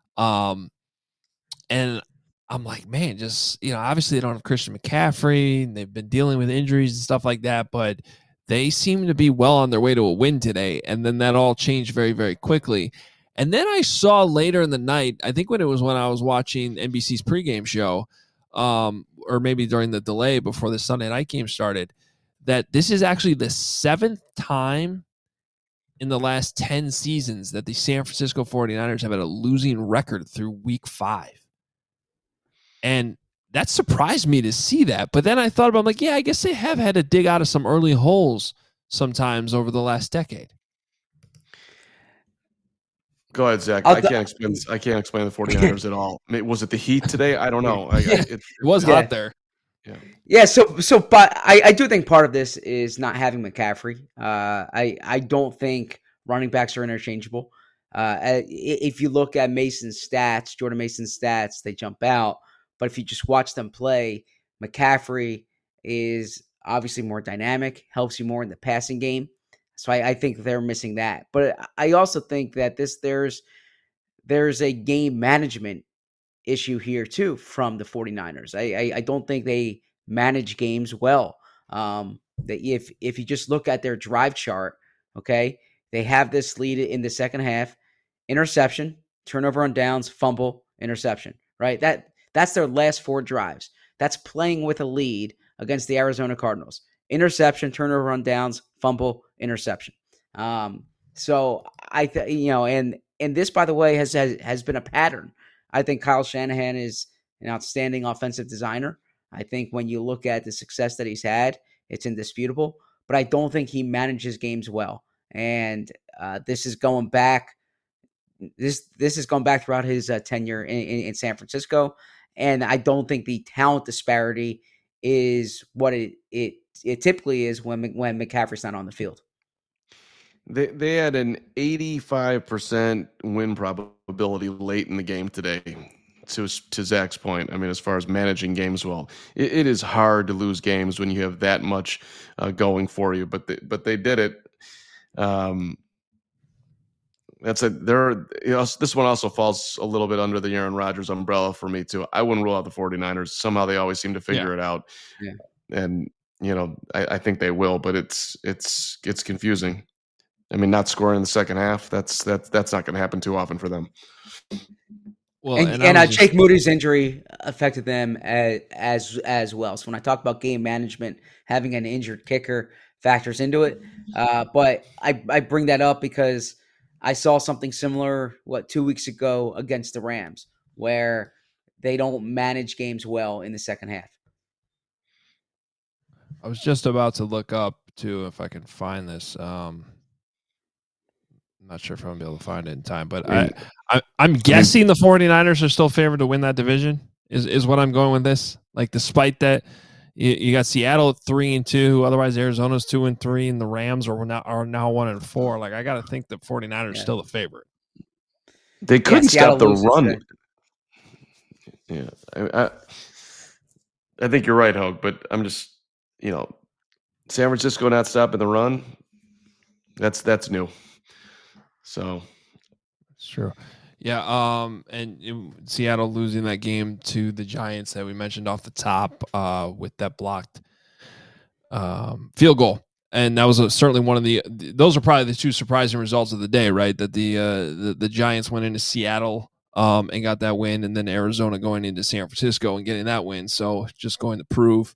And I'm like, man, just, obviously they don't have Christian McCaffrey, and they've been dealing with injuries and stuff like that, but they seem to be well on their way to a win today. And then that all changed very, very quickly. And then I saw later in the night, I think when I was watching NBC's pregame show, or maybe during the delay before the Sunday night game started, that this is actually the 7th time in the last 10 seasons that the San Francisco 49ers have had a losing record through week 5. And that surprised me to see that. But then I thought about, I'm like, yeah, I guess they have had to dig out of some early holes sometimes over the last decade. Go ahead, Zach. I can't explain the 49ers at all. Was it the heat today? I don't know. It was hot there. Yeah. But I do think part of this is not having McCaffrey. I don't think running backs are interchangeable. If you look at Jordan Mason's stats, they jump out. But if you just watch them play, McCaffrey is obviously more dynamic, helps you more in the passing game. So I think they're missing that. But I also think that there's a game management issue here too from the 49ers. I don't think they manage games well. That if you just look at their drive chart, okay, they have this lead in the second half, interception, turnover on downs, fumble, interception, right? That's their last 4 drives. That's playing with a lead against the Arizona Cardinals. Interception, turnover on downs, fumble, interception. So and this, by the way, has been a pattern. I think Kyle Shanahan is an outstanding offensive designer. I think when you look at the success that he's had, it's indisputable. But I don't think he manages games well. And this is going back. This is going back throughout his tenure in San Francisco. And I don't think the talent disparity is what it typically is when McCaffrey's not on the field. They had an 85% win probability late in the game today. To Zach's point, I mean, as far as managing games well, it is hard to lose games when you have that much going for you. But they did it. This one also falls a little bit under the Aaron Rodgers umbrella for me too. I wouldn't rule out the 49ers. Somehow they always seem to figure it out. Yeah. And I think they will, but it's confusing. I mean, not scoring in the second half, that's not going to happen too often for them. Well, and Jake Moody's injury affected them as well. So when I talk about game management, having an injured kicker factors into it. But I bring that up because I saw something similar, 2 weeks ago against the Rams, where they don't manage games well in the second half. I was just about to look up, too, if I can find this. I'm not sure if I'm going to be able to find it in time, but I'm guessing the 49ers are still favored to win that division, is what I'm going with this. Like, despite that, you got Seattle at 3-2, otherwise Arizona's 2-3, and the Rams are now 1-4. Like, I got to think the 49ers are still the favorite. They couldn't stop the run. Yeah, I think you're right, Hogue, but I'm just, San Francisco not stopping the run. That's new. So it's true. Yeah. Seattle losing that game to the Giants that we mentioned off the top with that blocked field goal. And that was certainly one of those are probably the two surprising results of the day, right? That the Giants went into Seattle and got that win, and then Arizona going into San Francisco and getting that win. So just going to prove,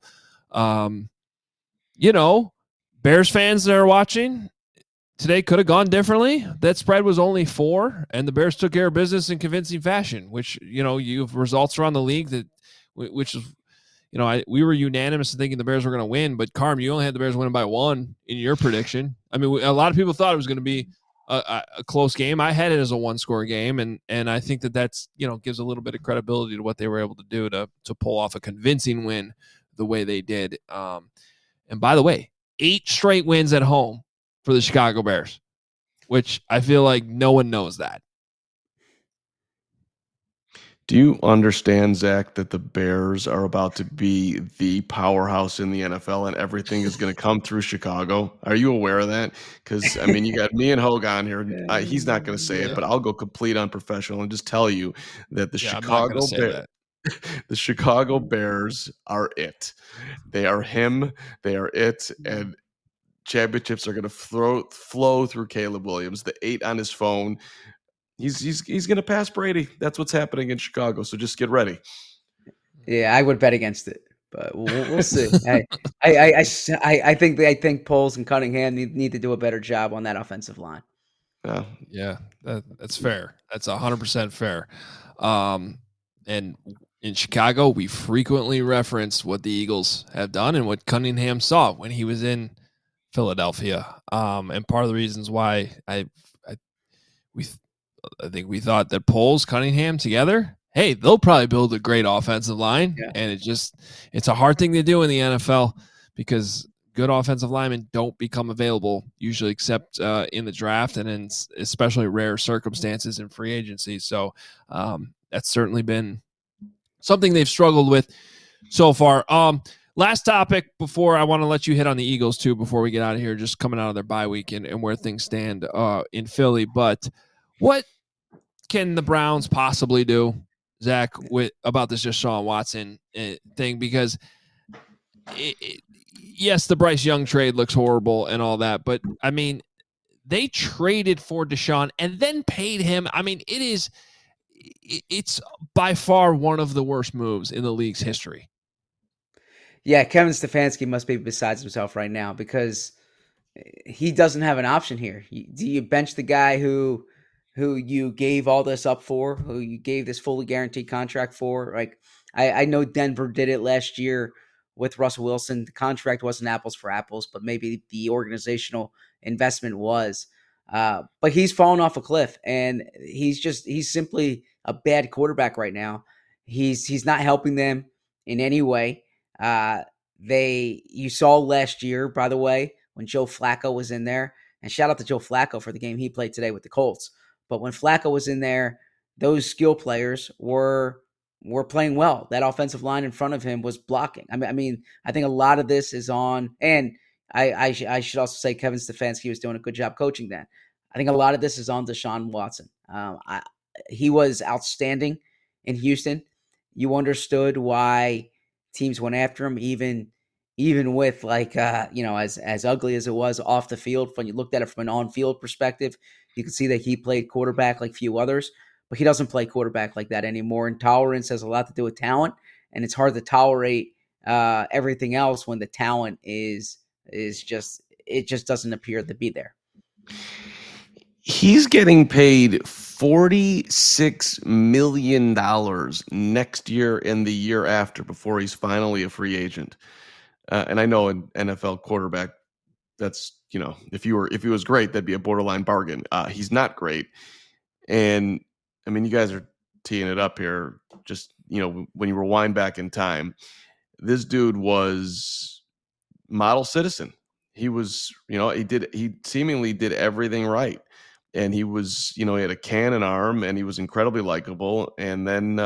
Bears fans that are watching today could have gone differently. That spread was only 4, and the Bears took care of business in convincing fashion, which, you have results around the league which is, we were unanimous in thinking the Bears were going to win, but Carm, you only had the Bears winning by 1 in your prediction. I mean, a lot of people thought it was going to be a close game. I had it as a 1-score game, and I think that's gives a little bit of credibility to what they were able to do to pull off a convincing win the way they did. And by the way, 8 straight wins at home for the Chicago Bears, which I feel like no one knows that. Do you understand, Zach, that the Bears are about to be the powerhouse in the NFL and everything is going to come through Chicago? Are you aware of that? Because, I mean, you got me and Hogue on here. He's not going to say it, but I'll go complete unprofessional and just tell you that the Chicago Bears are it. They are him. They are it. And championships are going to flow through Caleb Williams. The 8 on his phone. He's going to pass Brady. That's what's happening in Chicago. So just get ready. Yeah, I would bet against it, but we'll see. I think Poles and Cunningham need to do a better job on that offensive line. Yeah, that's fair. That's 100% fair. And in Chicago, we frequently reference what the Eagles have done and what Cunningham saw when he was in Philadelphia. And part of the reasons why I think we thought that Poles, Cunningham together, hey, they'll probably build a great offensive line. Yeah. And it's a hard thing to do in the NFL because good offensive linemen don't become available usually except in the draft and in especially rare circumstances in free agency. So that's certainly been something they've struggled with so far. Last topic before I want to let you hit on the Eagles too, before we get out of here, just coming out of their bye week and where things stand in Philly. But what can the Browns possibly do, Zach, about this Deshaun Watson thing? Because yes, the Bryce Young trade looks horrible and all that, but I mean, they traded for Deshaun and then paid him. I mean, it's by far one of the worst moves in the league's history. Yeah, Kevin Stefanski must be besides himself right now because he doesn't have an option here. Do you bench the guy who you gave all this up for, who you gave this fully guaranteed contract for? Like, I know Denver did it last year with Russell Wilson. The contract wasn't apples for apples, but maybe the organizational investment was. But he's fallen off a cliff, and he's simply a bad quarterback right now. He's not helping them in any way. You saw last year, by the way, when Joe Flacco was in there, and shout out to Joe Flacco for the game he played today with the Colts. But when Flacco was in there, those skill players were playing well. That offensive line in front of him was blocking. I mean, I think a lot of this is on, and I should also say Kevin Stefanski was doing a good job coaching that. I think a lot of this is on Deshaun Watson. He was outstanding in Houston. You understood why teams went after him, even with as ugly as it was off the field. When you looked at it from an on-field perspective, you could see that he played quarterback like few others, but he doesn't play quarterback like that anymore. And tolerance has a lot to do with talent, and it's hard to tolerate everything else when the talent is just doesn't appear to be there. He's getting paid $46 million next year and the year after before he's finally a free agent. And I know an NFL quarterback, that's, if he was great, that'd be a borderline bargain. He's not great. And I mean, you guys are teeing it up here. Just, when you rewind back in time, this dude was model citizen. He was, he seemingly did everything right. And he was, he had a cannon arm and he was incredibly likable. And then,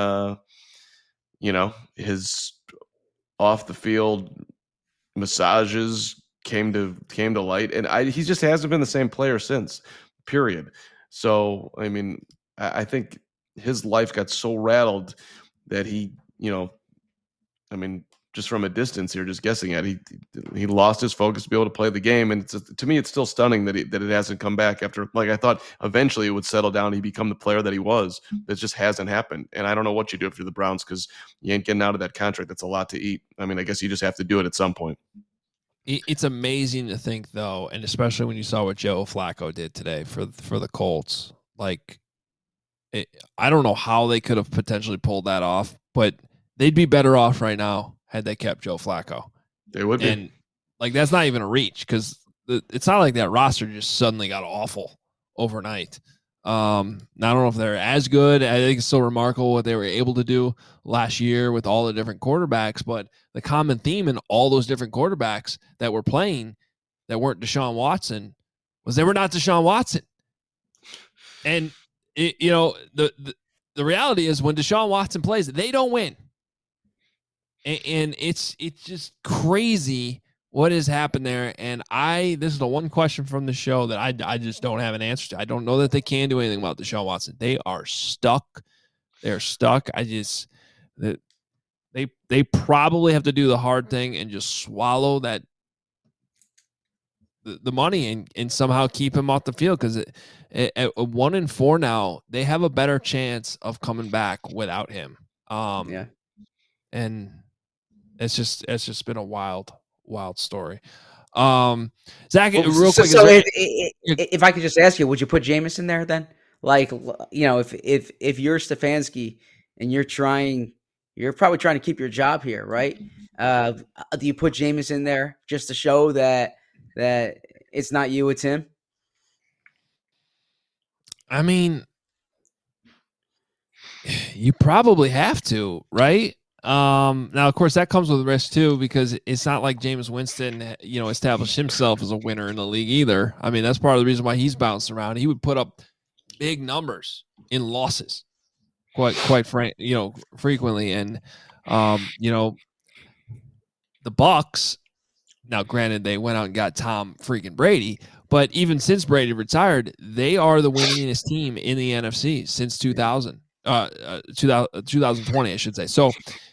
his off the field massages came to light, and he just hasn't been the same player since. Period. So I mean, I think his life got so rattled that he, I mean, just from a distance here, just guessing at it, he lost his focus to be able to play the game, and to me, it's still stunning that it hasn't come back after. Like I thought, eventually it would settle down. He'd become the player that he was. That just hasn't happened, and I don't know what you do if you're the Browns because you ain't getting out of that contract. That's a lot to eat. I mean, I guess you just have to do it at some point. It's amazing to think, though, and especially when you saw what Joe Flacco did today for the Colts. Like, I don't know how they could have potentially pulled that off, but they'd be better off right now had they kept Joe Flacco. They would be. And, like, that's not even a reach because it's not like that roster just suddenly got awful overnight. I don't know if they're as good. I think it's still remarkable what they were able to do last year with all the different quarterbacks, but the common theme in all those different quarterbacks that were playing that weren't Deshaun Watson was they were not Deshaun Watson. And the reality is when Deshaun Watson plays, they don't win. And it's just crazy what has happened there. And this is the one question from the show that I just don't have an answer to. I don't know that they can do anything about Deshaun Watson. They are stuck. They're stuck. They probably have to do the hard thing and just swallow that the money and somehow keep him off the field because at 1-4 now, they have a better chance of coming back without him. And it's just been a wild story. Zach, real quick. So if I could just ask you, would you put Jameis in there then? Like, if you're Stefanski and you're probably trying to keep your job here, right? Do you put Jameis in there just to show that it's not you, it's him? I mean, you probably have to, right? Now, of course, that comes with risk too, because it's not like Jameis Winston, established himself as a winner in the league either. I mean, that's part of the reason why he's bouncing around. He would put up big numbers in losses, quite frequently. And, the Bucs, now granted, they went out and got Tom freaking Brady, but even since Brady retired, they are the winningest team in the NFC since 2020, I should say. So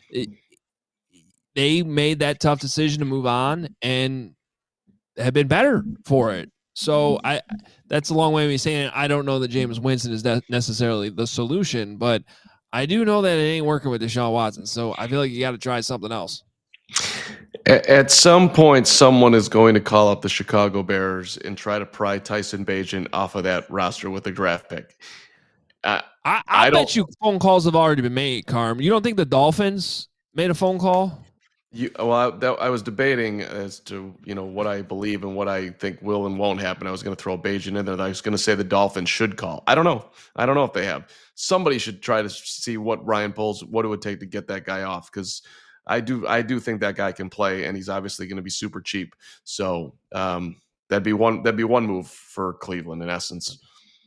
they made that tough decision to move on and have been better for it. So that's a long way of me saying I don't know that Jameis Winston is necessarily the solution, but I do know that it ain't working with Deshaun Watson. So I feel like you got to try something else. At some point, someone is going to call up the Chicago Bears and try to pry Tyson Bagent off of that roster with a draft pick. I bet you phone calls have already been made, Carm. You don't think the Dolphins made a phone call? I was debating as to what I believe and what I think will and won't happen. I was going to throw Bagent in there. I was going to say the Dolphins should call. I don't know if they have. Somebody should try to see what Ryan Poles, what it would take to get that guy off, because I do think that guy can play, and he's obviously going to be super cheap. So that'd be one move for Cleveland in essence.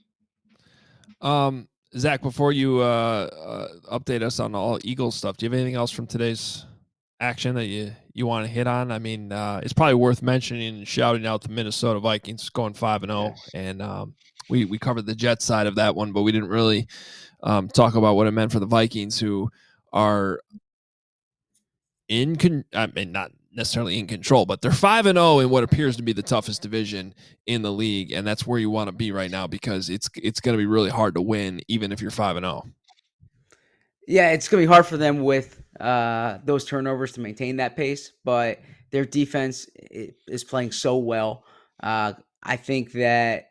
Zach, before you update us on all Eagles stuff, do you have anything else from today's action that you want to hit on? I mean, it's probably worth mentioning and shouting out the Minnesota Vikings going 5-0, and we covered the Jets side of that one, but we didn't really talk about what it meant for the Vikings, who are not necessarily in control, but they're 5-0 in what appears to be the toughest division in the league, and that's where you want to be right now because it's going to be really hard to win, even if you're 5-0. Yeah, it's going to be hard for them with those turnovers to maintain that pace, but their defense is playing so well. I think that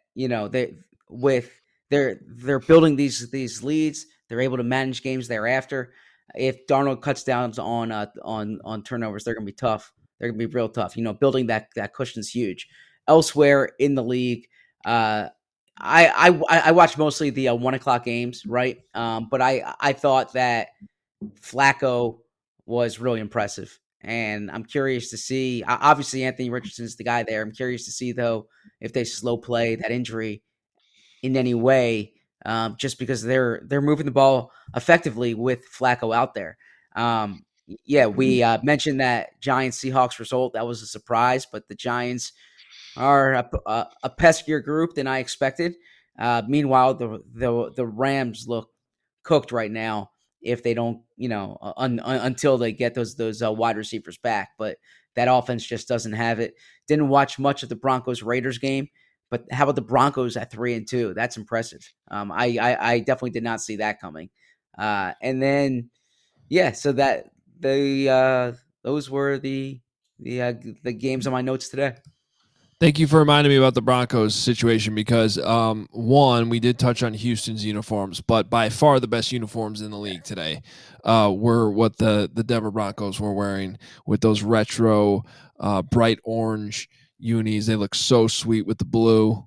they're building these leads. They're able to manage games thereafter. If Darnold cuts down on turnovers, they're going to be tough. They're going to be real tough. Building that cushion is huge. Elsewhere in the league, I watch mostly the 1:00 games, right? But I thought that Flacco was really impressive, and I'm curious to see. Obviously, Anthony Richardson is the guy there. I'm curious to see though if they slow play that injury in any way. Just because they're moving the ball effectively with Flacco out there. Yeah, we mentioned that Giants Seahawks result. That was a surprise, but the Giants are a peskier group than I expected. Meanwhile, the Rams look cooked right now if they don't, until they get those wide receivers back. But that offense just doesn't have it. Didn't watch much of the Broncos Raiders game, but how about the Broncos at 3-2? That's impressive. I definitely did not see that coming. And then yeah, so that those were the games on my notes today. Thank you for reminding me about the Broncos situation because, one, we did touch on Houston's uniforms, but by far the best uniforms in the league today were what the Denver Broncos were wearing with those retro bright orange unis. They look so sweet with the blue.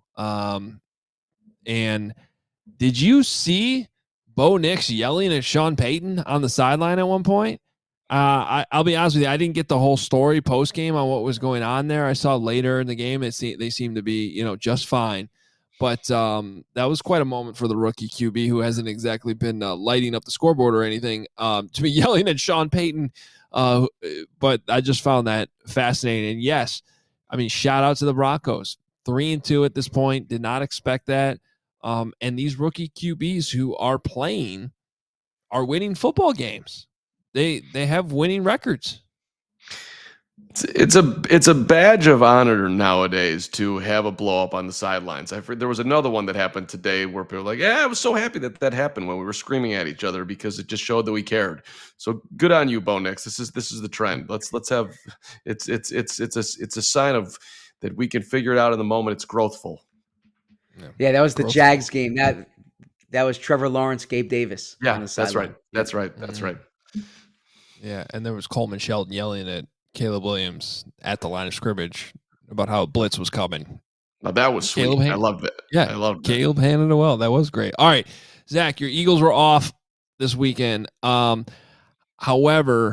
And did you see Bo Nix yelling at Sean Payton on the sideline at one point? I'll be honest with you. I didn't get the whole story post game on what was going on there. I saw later in the game they seemed to be just fine, but that was quite a moment for the rookie QB who hasn't exactly been lighting up the scoreboard or anything to be yelling at Sean Payton. But I just found that fascinating. And yes, I mean shout out to the Broncos, 3-2 at this point. Did not expect that. And these rookie QBs who are playing are winning football games. They have winning records. It's a badge of honor nowadays to have a blow up on the sidelines. There was another one that happened today where people were like, "Yeah, I was so happy that happened when we were screaming at each other because it just showed that we cared." So good on you, Bo Nix. This is the trend. Let's have it's a sign of that we can figure it out in the moment. It's growthful. Yeah, that was the Jags game. That was Trevor Lawrence, Gabe Davis. Yeah, that's right. That's right. That's right. Yeah, and there was Coleman Shelton yelling at Caleb Williams at the line of scrimmage about how a blitz was coming. Now that was sweet. I loved it. Yeah, I loved Caleb handled it well. That was great. All right, Zach, your Eagles were off this weekend. However,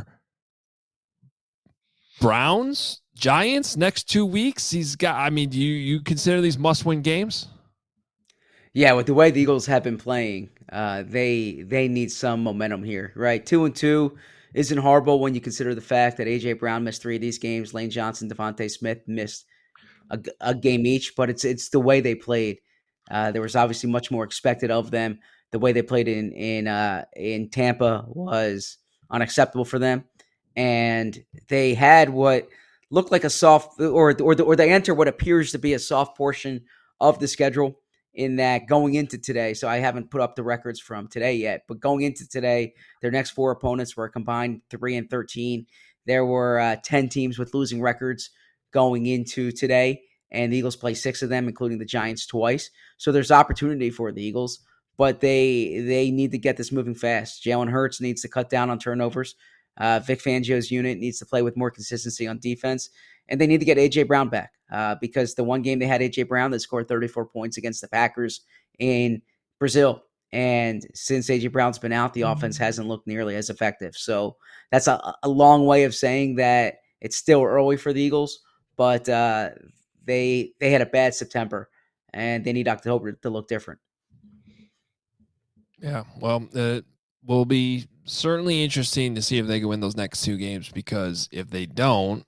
Browns, Giants, next 2 weeks. Do you consider these must-win games? Yeah, with the way the Eagles have been playing, they need some momentum here, right? 2-2 isn't horrible when you consider the fact that A.J. Brown missed 3 of these games. Lane Johnson, Devontae Smith missed a game each, but it's the way they played. There was obviously much more expected of them. The way they played in Tampa was unacceptable for them, and they had what looked like a soft, or they enter what appears to be a soft portion of the schedule. In that going into today, so I haven't put up the records from today yet, but going into today, their next 4 opponents were combined 3-13. There were 10 teams with losing records going into today, and the Eagles play 6 of them, including the Giants twice. So there's opportunity for the Eagles, but they need to get this moving fast. Jalen Hurts needs to cut down on turnovers. Vic Fangio's unit needs to play with more consistency on defense, and they need to get A.J. Brown back because the one game they had A.J. Brown that scored 34 points against the Packers in Brazil. And since A.J. Brown's been out, the offense hasn't looked nearly as effective. So that's a long way of saying that it's still early for the Eagles, but they had a bad September, and they need October to look different. Yeah, well, it will be certainly interesting to see if they can win those next 2 games, because if they don't,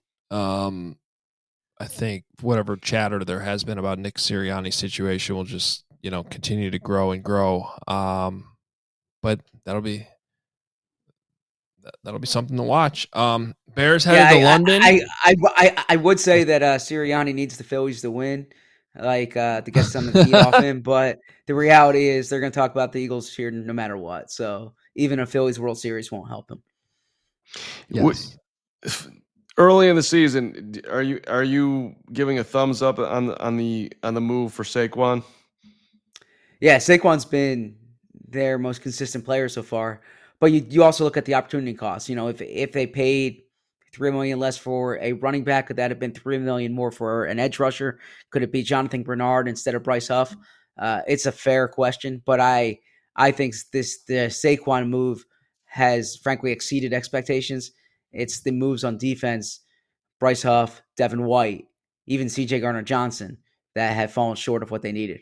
I think whatever chatter there has been about Nick Sirianni's situation will just, continue to grow and grow. But that'll be something to watch. Bears headed to London. I would say that Sirianni needs the Phillies to win, to get some of the heat off him. But the reality is they're going to talk about the Eagles here no matter what. So even a Phillies World Series won't help him. Yes. Early in the season, are you giving a thumbs up on the move for Saquon? Yeah, Saquon's been their most consistent player so far. But you also look at the opportunity cost. If they paid $3 million less for a running back, could that have been $3 million more for an edge rusher? Could it be Jonathan Bernard instead of Bryce Huff? It's a fair question, but I think the Saquon move has frankly exceeded expectations. It's the moves on defense, Bryce Huff, Devin White, even C.J. Gardner-Johnson, that have fallen short of what they needed.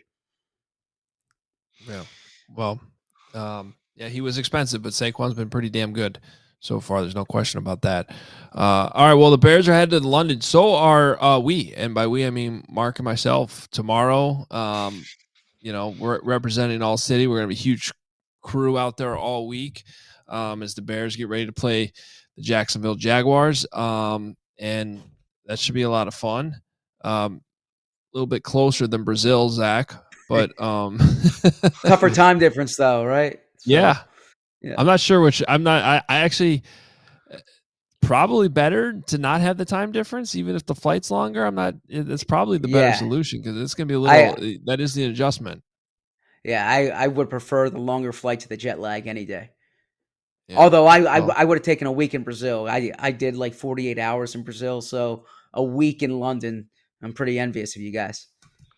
Yeah. Well, yeah, he was expensive, but Saquon's been pretty damn good. so far. There's no question about that. All right, well, the Bears are headed to London. So are we, and by we I mean Mark and myself. Tomorrow, we're representing All City. We're going to be a huge crew out there all week as the Bears get ready to play the Jacksonville Jaguars, and that should be a lot of fun. A little bit closer than Brazil, Zach, but tougher time difference though, right? So, yeah. I'm not sure which. I actually probably better to not have the time difference, even if the flight's longer. It's probably the better solution because it's going to be a little. That is the adjustment. Yeah, I would prefer the longer flight to the jet lag any day. Yeah. Although I would have taken a week in Brazil. I did like 48 hours in Brazil, so a week in London. I'm pretty envious of you guys.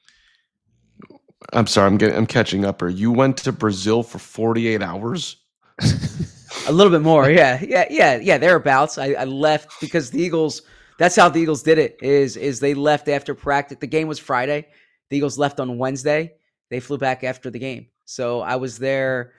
I'm sorry, I'm catching up. You went to Brazil for 48 hours? A little bit more, yeah, thereabouts. I left because the Eagles. That's how the Eagles did it. Is they left after practice. The game was Friday. The Eagles left on Wednesday. They flew back after the game. So I was there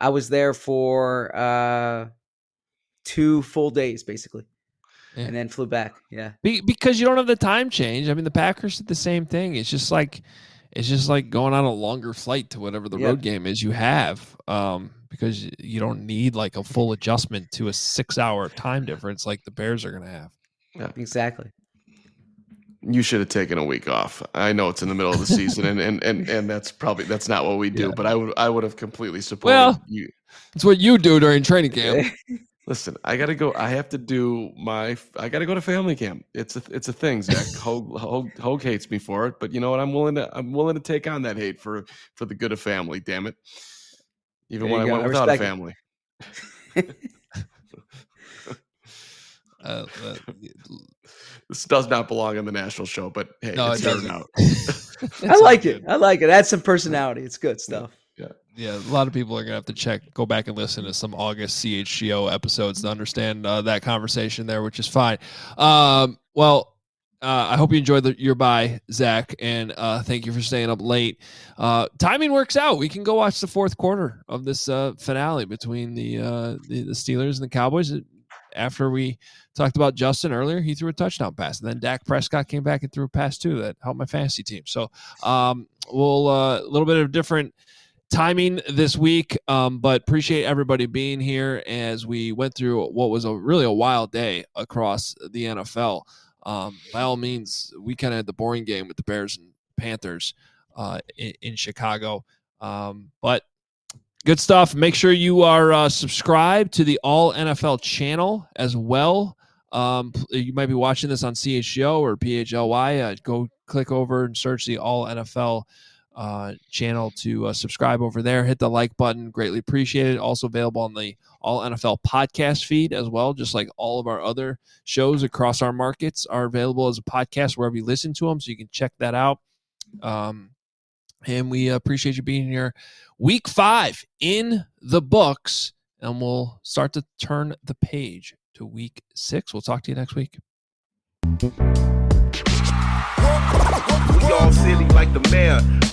for 2 full days basically, and then flew back. Yeah, because you don't have the time change. I mean, the Packers did the same thing. It's just like going on a longer flight to whatever the road game is you have, because you don't need like a full adjustment to a 6-hour time difference like the Bears are going to have. Yeah, exactly. You should have taken a week off. I know it's in the middle of the season, and that's not what we do. Yeah. But I would have completely supported you. It's what you do during training camp. Listen, I gotta go. I have to do I gotta go to family camp. It's a thing, Zach. Hogue hates me for it, but you know what? I'm willing to take on that hate for the good of family. Damn it! Even when I went without a family. This does not belong on the national show, but hey, no, it doesn't. Out. I like it. Add some personality. It's good stuff. Yeah, a lot of people are going to have to go back and listen to some August CHGO episodes to understand that conversation there, which is fine. I hope you enjoyed your bye, Zach, and thank you for staying up late. Timing works out. We can go watch the fourth quarter of this finale between the Steelers and the Cowboys. After we talked about Justin earlier, he threw a touchdown pass, and then Dak Prescott came back and threw a pass too that helped my fantasy team. So we'll a little bit of different timing this week, but appreciate everybody being here as we went through what was really a wild day across the NFL. By all means, we kind of had the boring game with the Bears and Panthers in Chicago, but good stuff. Make sure you are subscribed to the All NFL channel as well. You might be watching this on CHGO or PHLY. Go click over and search the All NFL channel to subscribe over there. Hit the like button. Greatly appreciated. Also available on the All NFL podcast feed as well, just like all of our other shows across our markets are available as a podcast wherever you listen to them, so you can check that out. And we appreciate you being here. Week 5 in the books, and we'll start to turn the page to week 6. We'll talk to you next week. We all silly like the mayor.